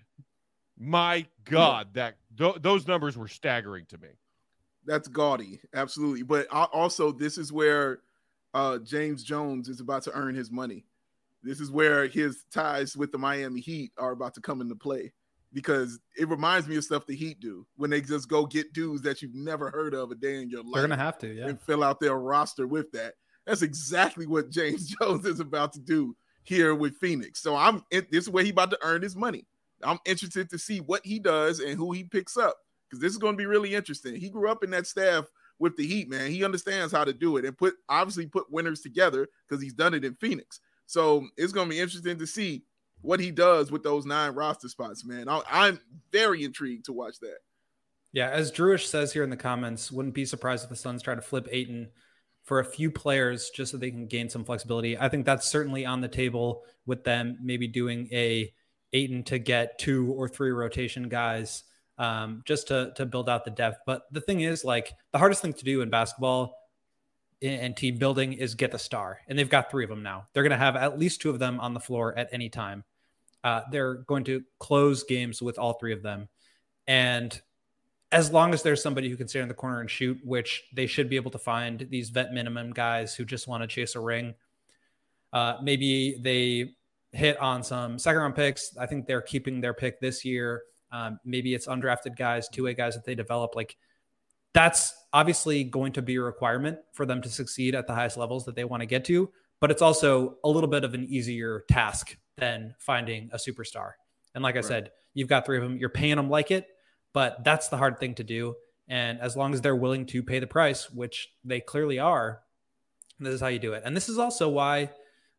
Speaker 1: that those numbers were staggering to me.
Speaker 3: That's gaudy. Absolutely. But also, this is where James Jones is about to earn his money. This is where his ties with the Miami Heat are about to come into play, because it reminds me of stuff the Heat do when they just go get dudes that you've never heard of a day in your life.
Speaker 2: They're going to have to, yeah.
Speaker 3: And fill out their roster with that. That's exactly what James Jones is about to do. here with Phoenix. So this is where he about to earn his money. I'm interested to see what he does and who he picks up, because this is going to be really interesting. He grew up in that staff with the Heat, man. He understands how to do it and obviously put winners together, because he's done it in Phoenix. So it's going to be interesting to see what he does with those 9 roster spots, man. I'm very intrigued to watch that.
Speaker 2: Yeah, as Drewish says here in the comments, wouldn't be surprised if the Suns try to flip Ayton for a few players just so they can gain some flexibility. I think that's certainly on the table with them maybe doing a Ayton to get 2 or 3 rotation guys just to build out the depth. But the thing is, like, the hardest thing to do in basketball and team building is get the star. And they've got 3 of them now. They're going to have at least 2 of them on the floor at any time. They're going to close games with all 3 of them. And as long as there's somebody who can stand in the corner and shoot, which they should be able to find, these vet minimum guys who just want to chase a ring. Maybe they hit on some second round picks. I think they're keeping their pick this year. Maybe it's undrafted guys, 2A guys that they develop. Like, that's obviously going to be a requirement for them to succeed at the highest levels that they want to get to, but it's also a little bit of an easier task than finding a superstar. And like I said, you've got 3 of them, you're paying them like it, but that's the hard thing to do. And as long as they're willing to pay the price, which they clearly are, this is how you do it. And this is also why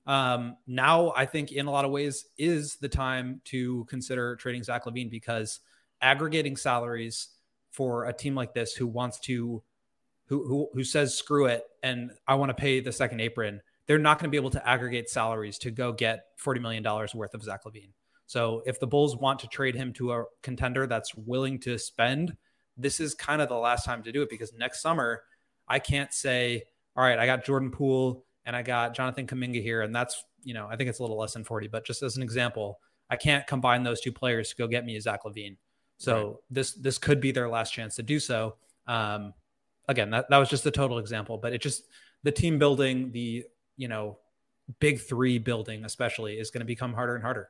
Speaker 2: now I think in a lot of ways is the time to consider trading Zach LaVine, because aggregating salaries for a team like this who wants to, who says, screw it, and I want to pay the second apron, they're not going to be able to aggregate salaries to go get $40 million worth of Zach LaVine. So if the Bulls want to trade him to a contender that's willing to spend, this is kind of the last time to do it, because next summer I can't say, all right, I got Jordan Poole and I got Jonathan Kuminga here, and that's, I think it's a little less than 40, but just as an example, I can't combine those 2 players to go get me a Zach LaVine. So this could be their last chance to do so. Again, that was just a total example, but it just, the team building, the, big 3 building especially, is going to become harder and harder.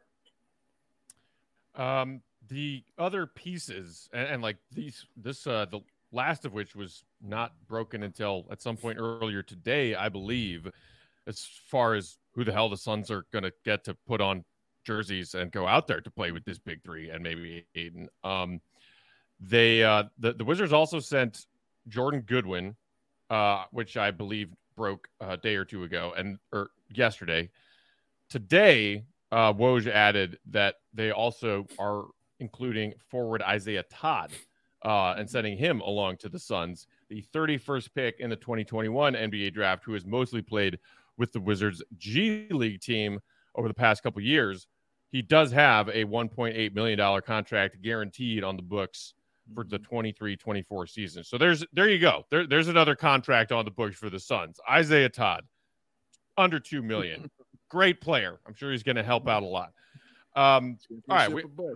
Speaker 1: The other pieces, and like the last of which was not broken until at some point earlier today, I believe, as far as who the hell the Suns are going to get to put on jerseys and go out there to play with this big 3 and maybe Ayton. The Wizards also sent Jordan Goodwin, which I believe broke a day or 2 ago, or yesterday. Today, Woj added that they also are including forward Isaiah Todd and sending him along to the Suns, the 31st pick in the 2021 NBA draft, who has mostly played with the Wizards G League team over the past couple years. He does have a $1.8 million contract guaranteed on the books for the 23-24 season. So there you go. There's another contract on the books for the Suns. Isaiah Todd, under $2 million. Great player. I'm sure he's going to help out a lot. All right.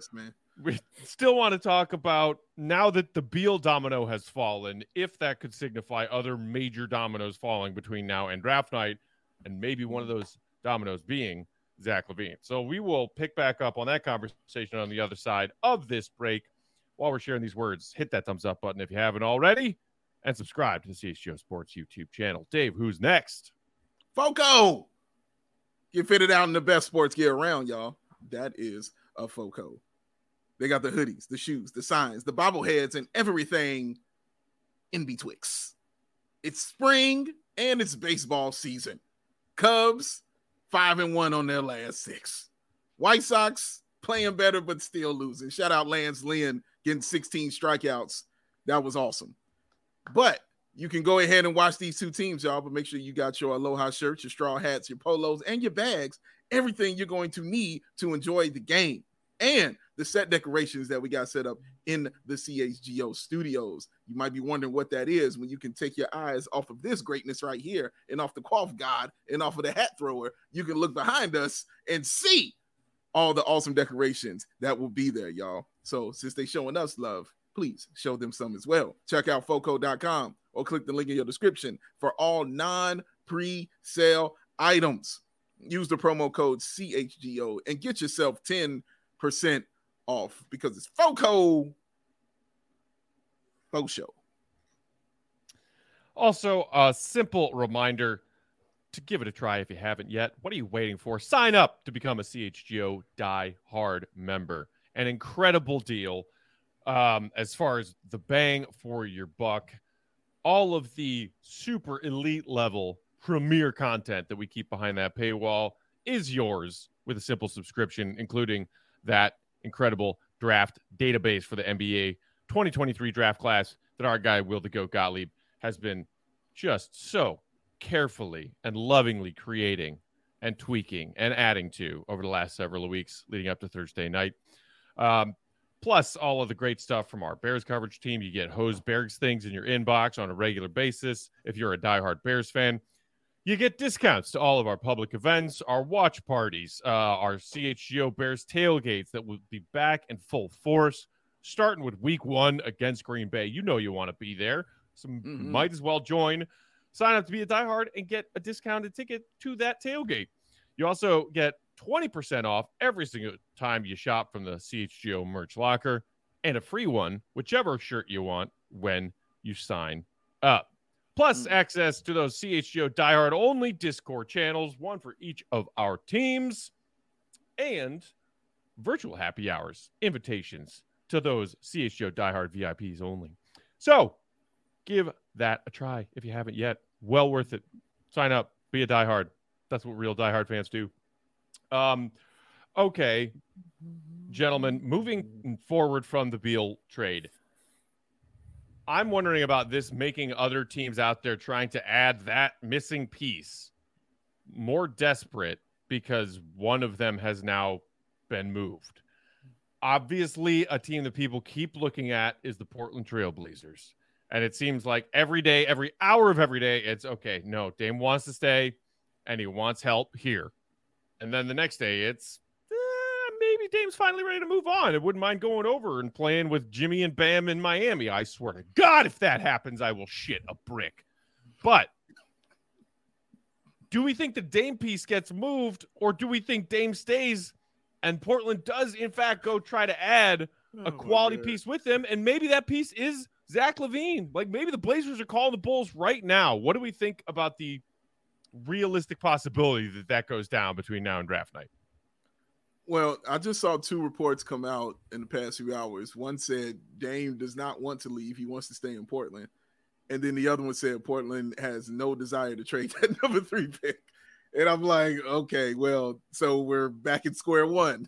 Speaker 1: We still want to talk about, now that the Beal domino has fallen, if that could signify other major dominoes falling between now and draft night, and maybe one of those dominoes being Zach LaVine. So we will pick back up on that conversation on the other side of this break. While we're sharing these words, hit that thumbs up button if you haven't already, and subscribe to the CHGO Sports YouTube channel. Dave, who's next?
Speaker 3: Foco! Get fitted out in the best sports gear around, y'all. That is a Foco. They got the hoodies, the shoes, the signs, the bobbleheads, and everything in betwixt. It's spring and it's baseball season. Cubs 5-1 on their last 6. White Sox playing better but still losing. Shout out Lance Lynn getting 16 strikeouts. That was awesome. But you can go ahead and watch these 2 teams, y'all, but make sure you got your Aloha shirts, your straw hats, your polos, and your bags, everything you're going to need to enjoy the game. And the set decorations that we got set up in the CHGO studios. You might be wondering what that is when you can take your eyes off of this greatness right here and off the Quaff God and off of the hat thrower. You can look behind us and see all the awesome decorations that will be there, y'all. So since they showing us love, please show them some as well. Check out foco.com or click the link in your description for all non-pre-sale items. Use the promo code CHGO and get yourself 10% off, because it's Foco. Faux show.
Speaker 1: Also, a simple reminder, to give it a try if you haven't yet. What are you waiting for? Sign up to become a CHGO Die Hard member. An incredible deal as far as the bang for your buck. All of the super elite level premier content that we keep behind that paywall is yours with a simple subscription, including that incredible draft database for the NBA 2023 draft class that our guy Will the Goat Gottlieb has been just so carefully and lovingly creating and tweaking and adding to over the last several weeks leading up to Thursday night. Plus all of the great stuff from our Bears coverage team. You get Hose Bears things in your inbox on a regular basis. If you're a diehard Bears fan, you get discounts to all of our public events, our watch parties, our CHGO Bears tailgates that will be back in full force, starting with week 1 against Green Bay. You know you want to be there, so might as well join. Sign up to be a diehard and get a discounted ticket to that tailgate. You also get 20% off every single time you shop from the CHGO merch locker and a free one, whichever shirt you want when you sign up. Plus access to those CHGO diehard only Discord channels, one for each of our teams, and virtual happy hours, invitations to those CHGO diehard VIPs only. So give that a try if you haven't yet. Well worth it. Sign up, be a diehard. That's what real diehard fans do. Okay, gentlemen, moving forward from the Beal trade, I'm wondering about this making other teams out there trying to add that missing piece more desperate because one of them has now been moved. Obviously, a team that people keep looking at is the Portland Trail Blazers. And it seems like every day, every hour of every day, it's okay. No, Dame wants to stay and he wants help here. And then the next day, it's maybe Dame's finally ready to move on. I wouldn't mind going over and playing with Jimmy and Bam in Miami. I swear to God, if that happens, I will shit a brick. But do we think the Dame piece gets moved, or do we think Dame stays and Portland does, in fact, go try to add a quality piece with him? And maybe that piece is Zach LaVine. Like, maybe the Blazers are calling the Bulls right now. What do we think about the realistic possibility that that goes down between now and draft night?
Speaker 3: Well, I just saw 2 reports come out in the past few hours. One said Dame does not want to leave. He wants to stay in Portland. And then the other one said Portland has no desire to trade that number 3 pick. And I'm like, okay, well, so we're back at square one,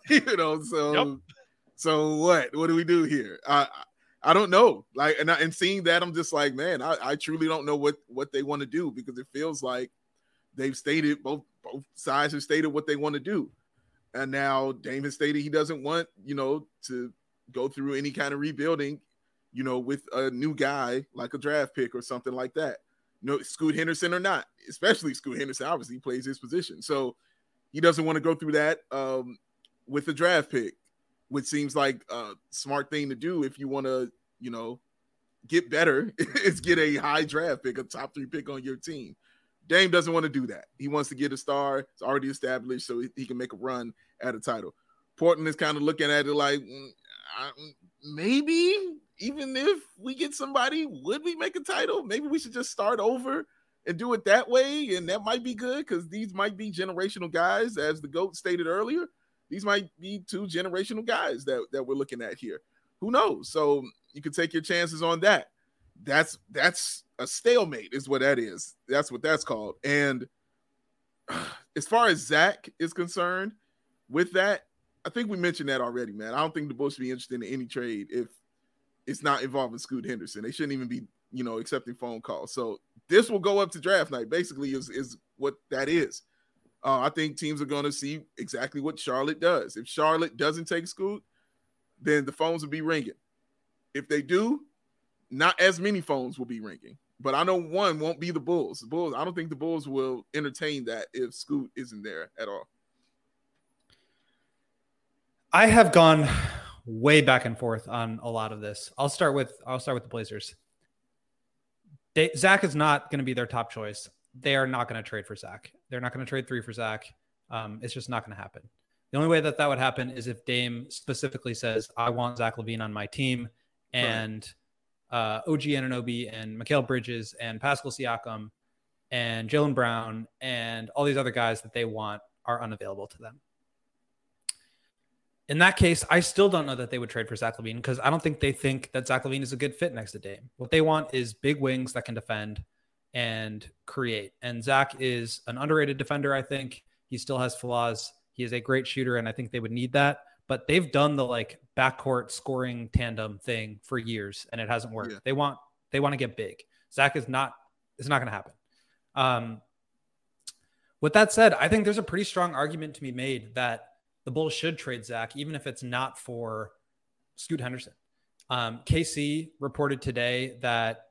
Speaker 3: So what do we do here? I don't know. Like, and seeing that, I'm just like, man, I truly don't know what they want to do, because it feels like they've stated, both sides have stated what they want to do. And now Dame has stated he doesn't want, to go through any kind of rebuilding, with a new guy like a draft pick or something like that. Scoot Henderson or not, especially Scoot Henderson, obviously plays his position. So he doesn't want to go through that with a draft pick, which seems like a smart thing to do if you want to, get better, is get a high draft pick, a top 3 pick on your team. Dame doesn't want to do that. He wants to get a star. It's already established, so he can make a run at a title. Portland is kind of looking at it like, maybe even if we get somebody, would we make a title? Maybe we should just start over and do it that way, and that might be good, because these might be generational guys, as the GOAT stated earlier. These might be 2 generational guys that we're looking at here. Who knows? So you can take your chances on that. That's a stalemate is what that is. That's what that's called. And as far as Zach is concerned with that, I think we mentioned that already, man. I don't think the Bulls should be interested in any trade if it's not involving Scoot Henderson. They shouldn't even be, accepting phone calls. So this will go up to draft night, basically, is what that is. I think teams are going to see exactly what Charlotte does. If Charlotte doesn't take Scoot, then the phones will be ringing. If they do, not as many phones will be ringing. But I know one won't be the Bulls. The Bulls, I don't think the Bulls will entertain that if Scoot isn't there at all.
Speaker 2: I have gone way back and forth on a lot of this. I'll start with the Blazers. Zach is not going to be their top choice. They are not going to trade for Zach. They're not going to trade 3 for Zach. It's just not going to happen. The only way that would happen is if Dame specifically says, I want Zach LaVine on my team, and OG Anunoby and Mikal Bridges and Pascal Siakam and Jaylen Brown and all these other guys that they want are unavailable to them. In that case, I still don't know that they would trade for Zach LaVine because I don't think they think that Zach LaVine is a good fit next to Dame. What they want is big wings that can defend and create. And Zach is an underrated defender, I think. He still has flaws. He is a great shooter, and I think they would need that. But they've done the like backcourt scoring tandem thing for years, and it hasn't worked. Yeah. They want to get big. Zach it's not going to happen. With that said, I think there's a pretty strong argument to be made that the Bulls should trade Zach, even if it's not for Scoot Henderson. KC reported today that,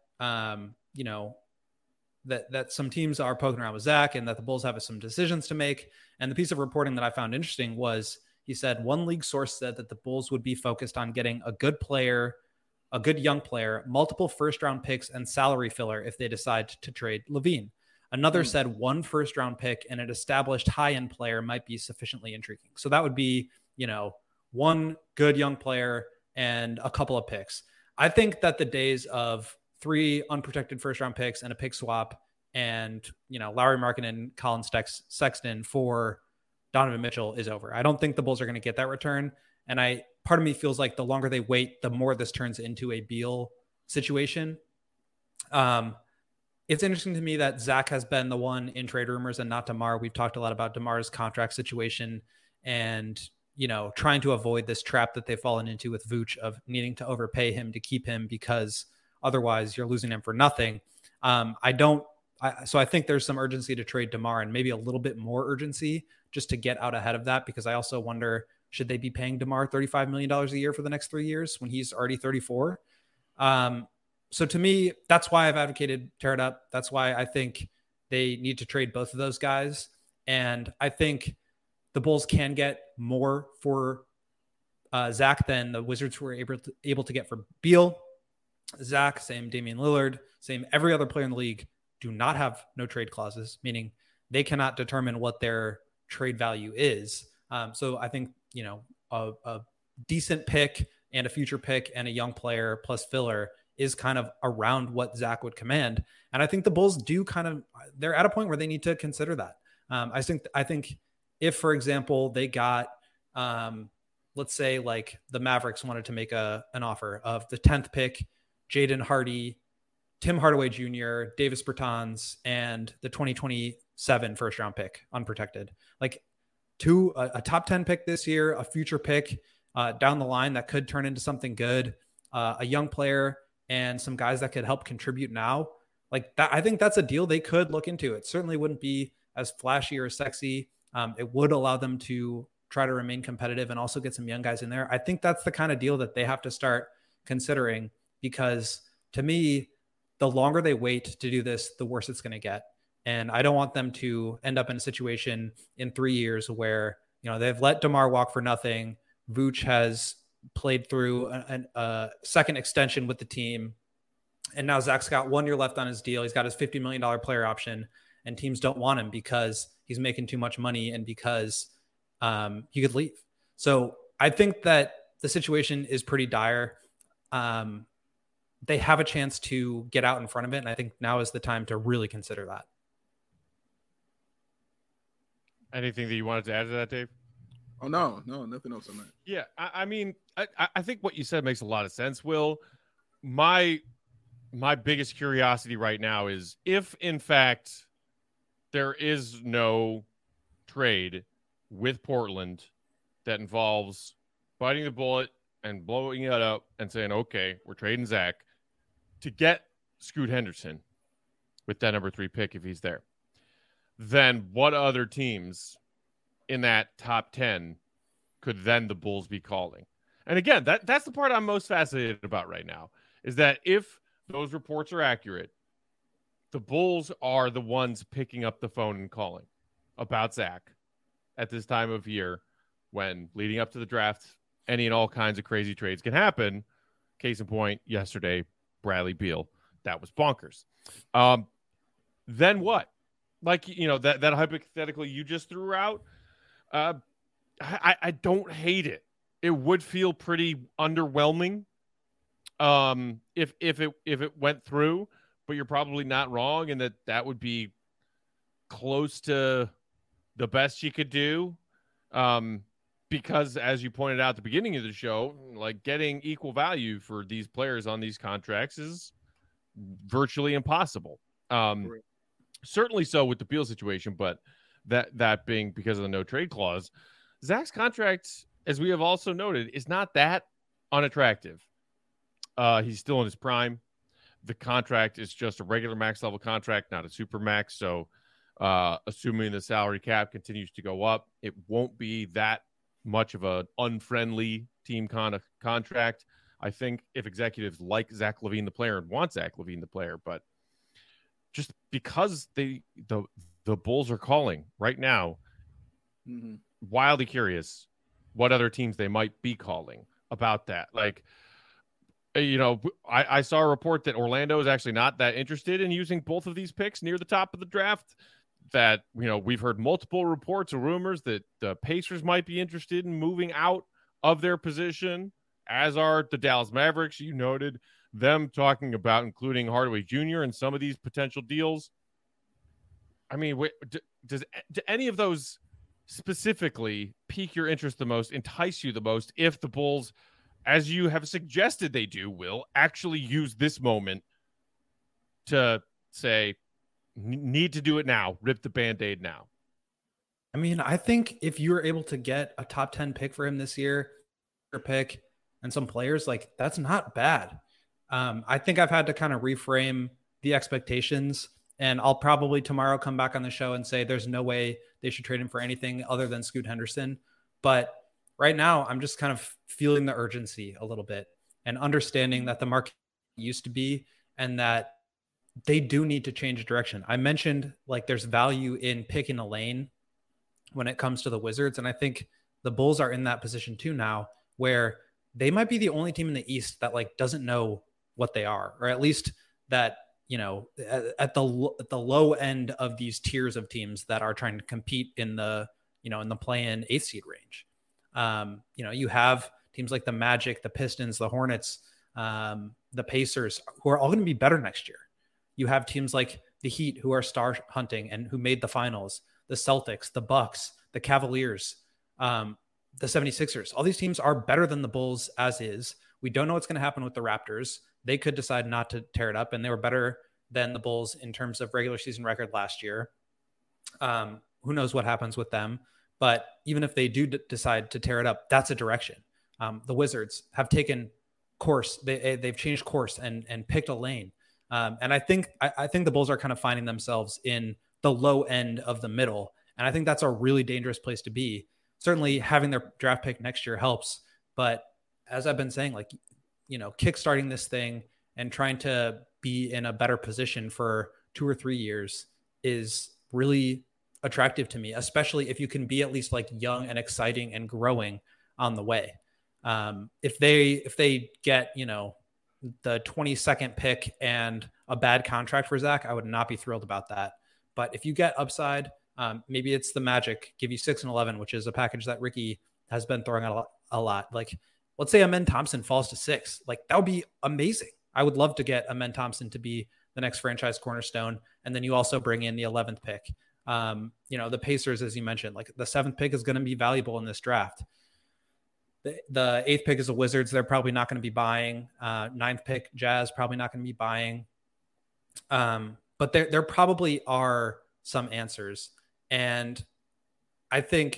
Speaker 2: that some teams are poking around with Zach and that the Bulls have some decisions to make. And the piece of reporting that I found interesting was he said one league source said that the Bulls would be focused on getting a good player, a good young player, multiple first-round picks, and salary filler if they decide to trade LaVine. Another said one first-round pick and an established high-end player might be sufficiently intriguing. So that would be, one good young player and a couple of picks. I think that the days of 3 unprotected first-round picks and a pick swap and, Lauri Markkanen, Colin Sexton for Donovan Mitchell is over. I don't think the Bulls are going to get that return. And part of me feels like the longer they wait, the more this turns into a Beal situation. It's interesting to me that Zach has been the one in trade rumors and not DeMar. We've talked a lot about DeMar's contract situation and, trying to avoid this trap that they've fallen into with Vooch of needing to overpay him to keep him because otherwise you're losing him for nothing. So I think there's some urgency to trade DeMar and maybe a little bit more urgency just to get out ahead of that, because I also wonder, should they be paying DeMar $35 million a year for the next 3 years when he's already 34? So to me, that's why I've advocated tear it up. That's why I think they need to trade both of those guys. And I think the Bulls can get more for Zach than the Wizards were able to get for Beal. Zach, same Damian Lillard, same every other player in the league do not have no trade clauses, meaning they cannot determine what their trade value is. So I think, a decent pick and a future pick and a young player plus filler is kind of around what Zach would command. And I think the Bulls they're at a point where they need to consider that. I think if, for example, they got, let's say like the Mavericks wanted to make an offer of the 10th pick, Jaden Hardy, Tim Hardaway Jr., Davis Bertans, and the 2027 first round pick, unprotected, like a top 10 pick this year, a future pick down the line that could turn into something good, a young player, and some guys that could help contribute now. Like that, I think that's a deal they could look into. It certainly wouldn't be as flashy or sexy. It would allow them to try to remain competitive and also get some young guys in there. I think that's the kind of deal that they have to start considering, because to me, the longer they wait to do this, the worse it's going to get. And I don't want them to end up in a situation in 3 years where, they've let DeMar walk for nothing. Vooch has played through a second extension with the team. And now Zach's got 1 year left on his deal. He's got his $50 million player option, and teams don't want him because he's making too much money and because he could leave. So I think that the situation is pretty dire. They have a chance to get out in front of it. And I think now is the time to really consider that.
Speaker 1: Anything that you wanted to add to that, Dave?
Speaker 3: Oh, no, nothing else on that.
Speaker 1: Yeah, I mean, I think what you said makes a lot of sense, Will. My biggest curiosity right now is if, in fact, there is no trade with Portland that involves biting the bullet and blowing it up and saying, okay, we're trading Zach to get Scoot Henderson with that number 3 pick if he's there, then what other teams in that top 10 could then the Bulls be calling? And again, that's the part I'm most fascinated about right now, is that if those reports are accurate, the Bulls are the ones picking up the phone and calling about Zach at this time of year when leading up to the draft, any and all kinds of crazy trades can happen. Case in point, yesterday, Bradley Beal. That was bonkers. Then what? Like, that hypothetical you just threw out, I don't hate it. It would feel pretty underwhelming if it went through, but you're probably not wrong in that would be close to the best she could do. Because as you pointed out at the beginning of the show, like getting equal value for these players on these contracts is virtually impossible. Certainly so with the Beal situation, but that being because of the no trade clause, Zach's contract, as we have also noted, is not that unattractive. He's still in his prime. The contract is just a regular max level contract, not a super max. So assuming the salary cap continues to go up, it won't be that much of an unfriendly team contract. I think if executives like Zach LaVine, the player, and want Zach LaVine, the player, but just because the Bulls are calling right now, wildly curious what other teams they might be calling about that. Like, you know, I saw a report that Orlando is actually not that interested in using both of these picks near the top of the draft. That, you know, we've heard multiple reports or rumors that the Pacers might be interested in moving out of their position, as are the Dallas Mavericks. You noted them talking about including Hardaway Jr. in some of these potential deals. I mean, do any of those specifically pique your interest the most, entice you the most, if the Bulls, as you have suggested they do, will actually use this moment to say, need to do it now, rip the Band-Aid now?
Speaker 2: I mean, I think if you're able to get a top 10 pick for him this year, pick and some players, like, that's not bad. I think I've had to kind of reframe the expectations, and I'll probably tomorrow come back on the show and say there's no way they should trade him for anything other than Scoot Henderson. But right now, I'm just kind of feeling the urgency a little bit and understanding that the market used to be, and that they do need to change direction. I mentioned, like, there's value in picking a lane when it comes to the Wizards. And I think the Bulls are in that position too now, where they might be the only team in the East that, like, doesn't know what they are, or at least that, you know, at the low end of these tiers of teams that are trying to compete in the, you know, in the play-in 8th seed range. You know, you have teams like the Magic, the Pistons, the Hornets, the Pacers, who are all going to be better next year. You have teams like the Heat, who are star hunting and who made the finals, the Celtics, the Bucks, the Cavaliers, the 76ers. All these teams are better than the Bulls as is. We don't know what's going to happen with the Raptors. They could decide not to tear it up, and they were better than the Bulls in terms of regular season record last year. Who knows what happens with them? But even if they do decide to tear it up, that's a direction. The Wizards have taken course. They've changed course and picked a lane. And I think the Bulls are kind of finding themselves in the low end of the middle. And I think that's a really dangerous place to be. Certainly having their draft pick next year helps. But as I've been saying, like, you know, kickstarting this thing and trying to be in a better position for 2 or 3 years is really attractive to me, especially if you can be at least, like, young and exciting and growing on the way. If they get, you know, the 22nd pick and a bad contract for Zach, I would not be thrilled about that. But if you get upside, maybe it's the Magic give you 6 and 11, which is a package that Ricky has been throwing out a lot. Like, let's say Amen Thompson falls to 6. Like, that would be amazing. I would love to get Amen Thompson to be the next franchise cornerstone. And then you also bring in the 11th pick. You know, the Pacers, as you mentioned, like, the 7th pick is going to be valuable in this draft. The 8th pick is the Wizards. They're probably not going to be buying. 9th pick, Jazz, probably not going to be buying. But there probably are some answers. And I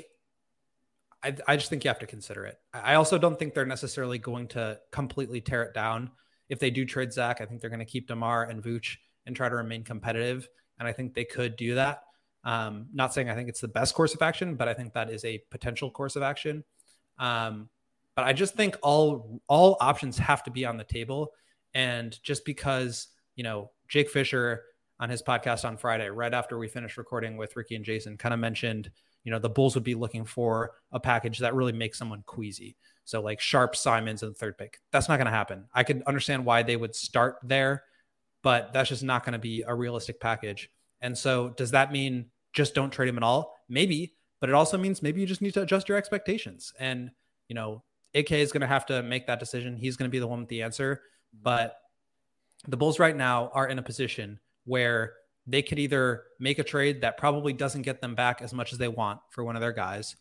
Speaker 2: just think you have to consider it. I also don't think they're necessarily going to completely tear it down. If they do trade Zach, I think they're going to keep DeMar and Vooch and try to remain competitive. And I think they could do that. Not saying I think it's the best course of action, but I think that is a potential course of action. But I just think all options have to be on the table. And just because, you know, Jake Fisher on his podcast on Friday, right after we finished recording with Ricky and Jason, kind of mentioned, you know, the Bulls would be looking for a package that really makes someone queasy. So like Sharp, Simons, and the 3rd pick. That's not going to happen. I could understand why they would start there, but that's just not going to be a realistic package. And so does that mean just don't trade him at all? Maybe, but it also means maybe you just need to adjust your expectations. And, you know, AK is going to have to make that decision. He's going to be the one with the answer. But the Bulls right now are in a position where they could either make a trade that probably doesn't get them back as much as they want for one of their guys,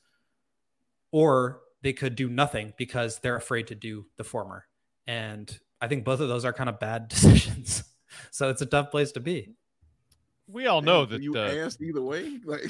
Speaker 2: or they could do nothing because they're afraid to do the former. And I think both of those are kind of bad decisions. So it's a tough place to be.
Speaker 1: We all know that
Speaker 3: you asked either way. Like,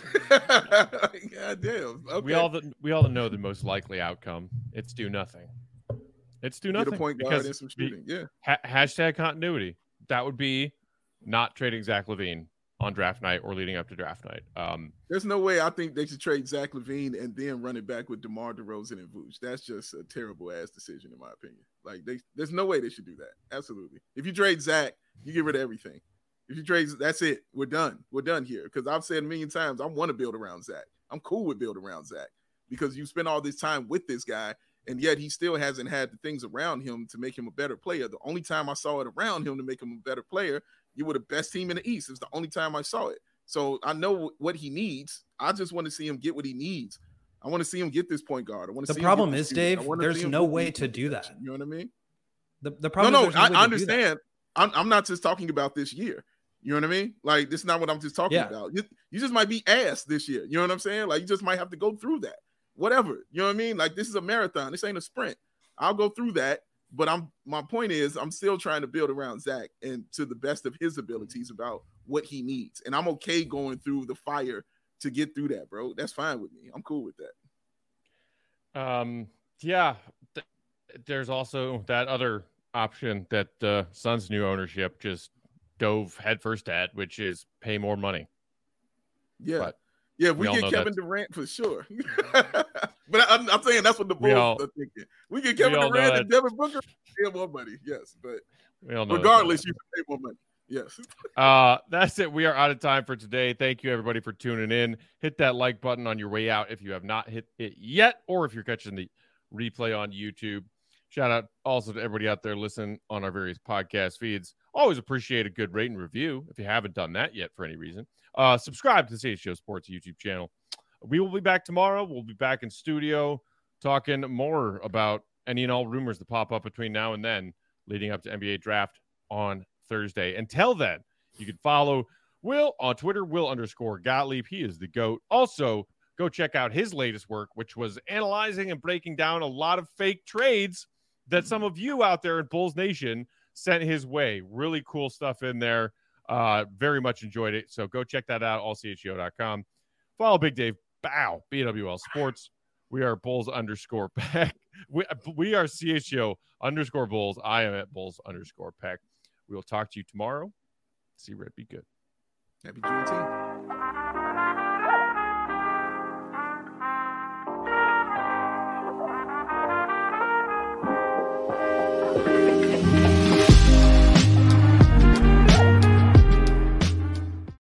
Speaker 3: goddamn. Okay.
Speaker 1: We all know the most likely outcome. It's do nothing. It's do nothing.
Speaker 3: Get a point guard and some shooting. Yeah.
Speaker 1: Hashtag continuity. That would be not trading Zach LaVine on draft night or leading up to draft night.
Speaker 3: There's no way I think they should trade Zach LaVine and then run it back with DeMar DeRozan and Vooch. That's just a terrible ass decision in my opinion. Like there's no way they should do that. Absolutely. If you trade Zach, you get rid of everything. If you trade, that's it. We're done. We're done here. Because I've said a million times, I want to build around Zach. I'm cool with building around Zach because you spend all this time with this guy, and yet he still hasn't had the things around him to make him a better player. The only time I saw it around him to make him a better player, you were the best team in the East. It's the only time I saw it. So I know what he needs. I just want to see him get what he needs. I want to see him get this point guard. I want to.
Speaker 2: The problem is, Dave, there's no way to do that.
Speaker 3: You know what I mean?
Speaker 2: The problem.
Speaker 3: No, I understand. I'm not just talking about this year. You know what I mean? Like, this is not what I'm just talking about. You just might be ass this year. You know what I'm saying? Like, you just might have to go through that. Whatever. You know what I mean? Like, this is a marathon. This ain't a sprint. I'll go through that. But my point is, I'm still trying to build around Zach and to the best of his abilities about what he needs. And I'm okay going through the fire to get through that, bro. That's fine with me. I'm cool with that.
Speaker 1: Yeah. There's also that other option that the Suns' new ownership just dove headfirst at, which is pay more money.
Speaker 3: Yeah. But we get Kevin Durant for sure. But I'm saying that's what the Bulls are thinking. We get Kevin Durant and Devin Booker, pay more money. Yes, but regardless, you can pay more money. Yes.
Speaker 1: That's it. We are out of time for today. Thank you, everybody, for tuning in. Hit that like button on your way out if you have not hit it yet, or if you're catching the replay on YouTube. Shout out also to everybody out there listening on our various podcast feeds. Always appreciate a good rate and review if you haven't done that yet for any reason. Subscribe to the CHGO Sports YouTube channel. We will be back tomorrow. We'll be back in studio talking more about any and all rumors that pop up between now and then leading up to NBA draft on Thursday. Until then, you can follow Will on Twitter, Will_Gottlieb. He is the GOAT. Also, go check out his latest work, which was analyzing and breaking down a lot of fake trades that some of you out there in Bulls Nation sent his way. Really cool stuff in there. Very much enjoyed it. So go check that out, allchgo.com. Follow Big Dave Bow, BWL Sports. We are Bulls_Peck. We are CHGO_Bulls. I am at Bulls_Peck. We will talk to you tomorrow. See Red be good.
Speaker 3: Happy Juneteenth.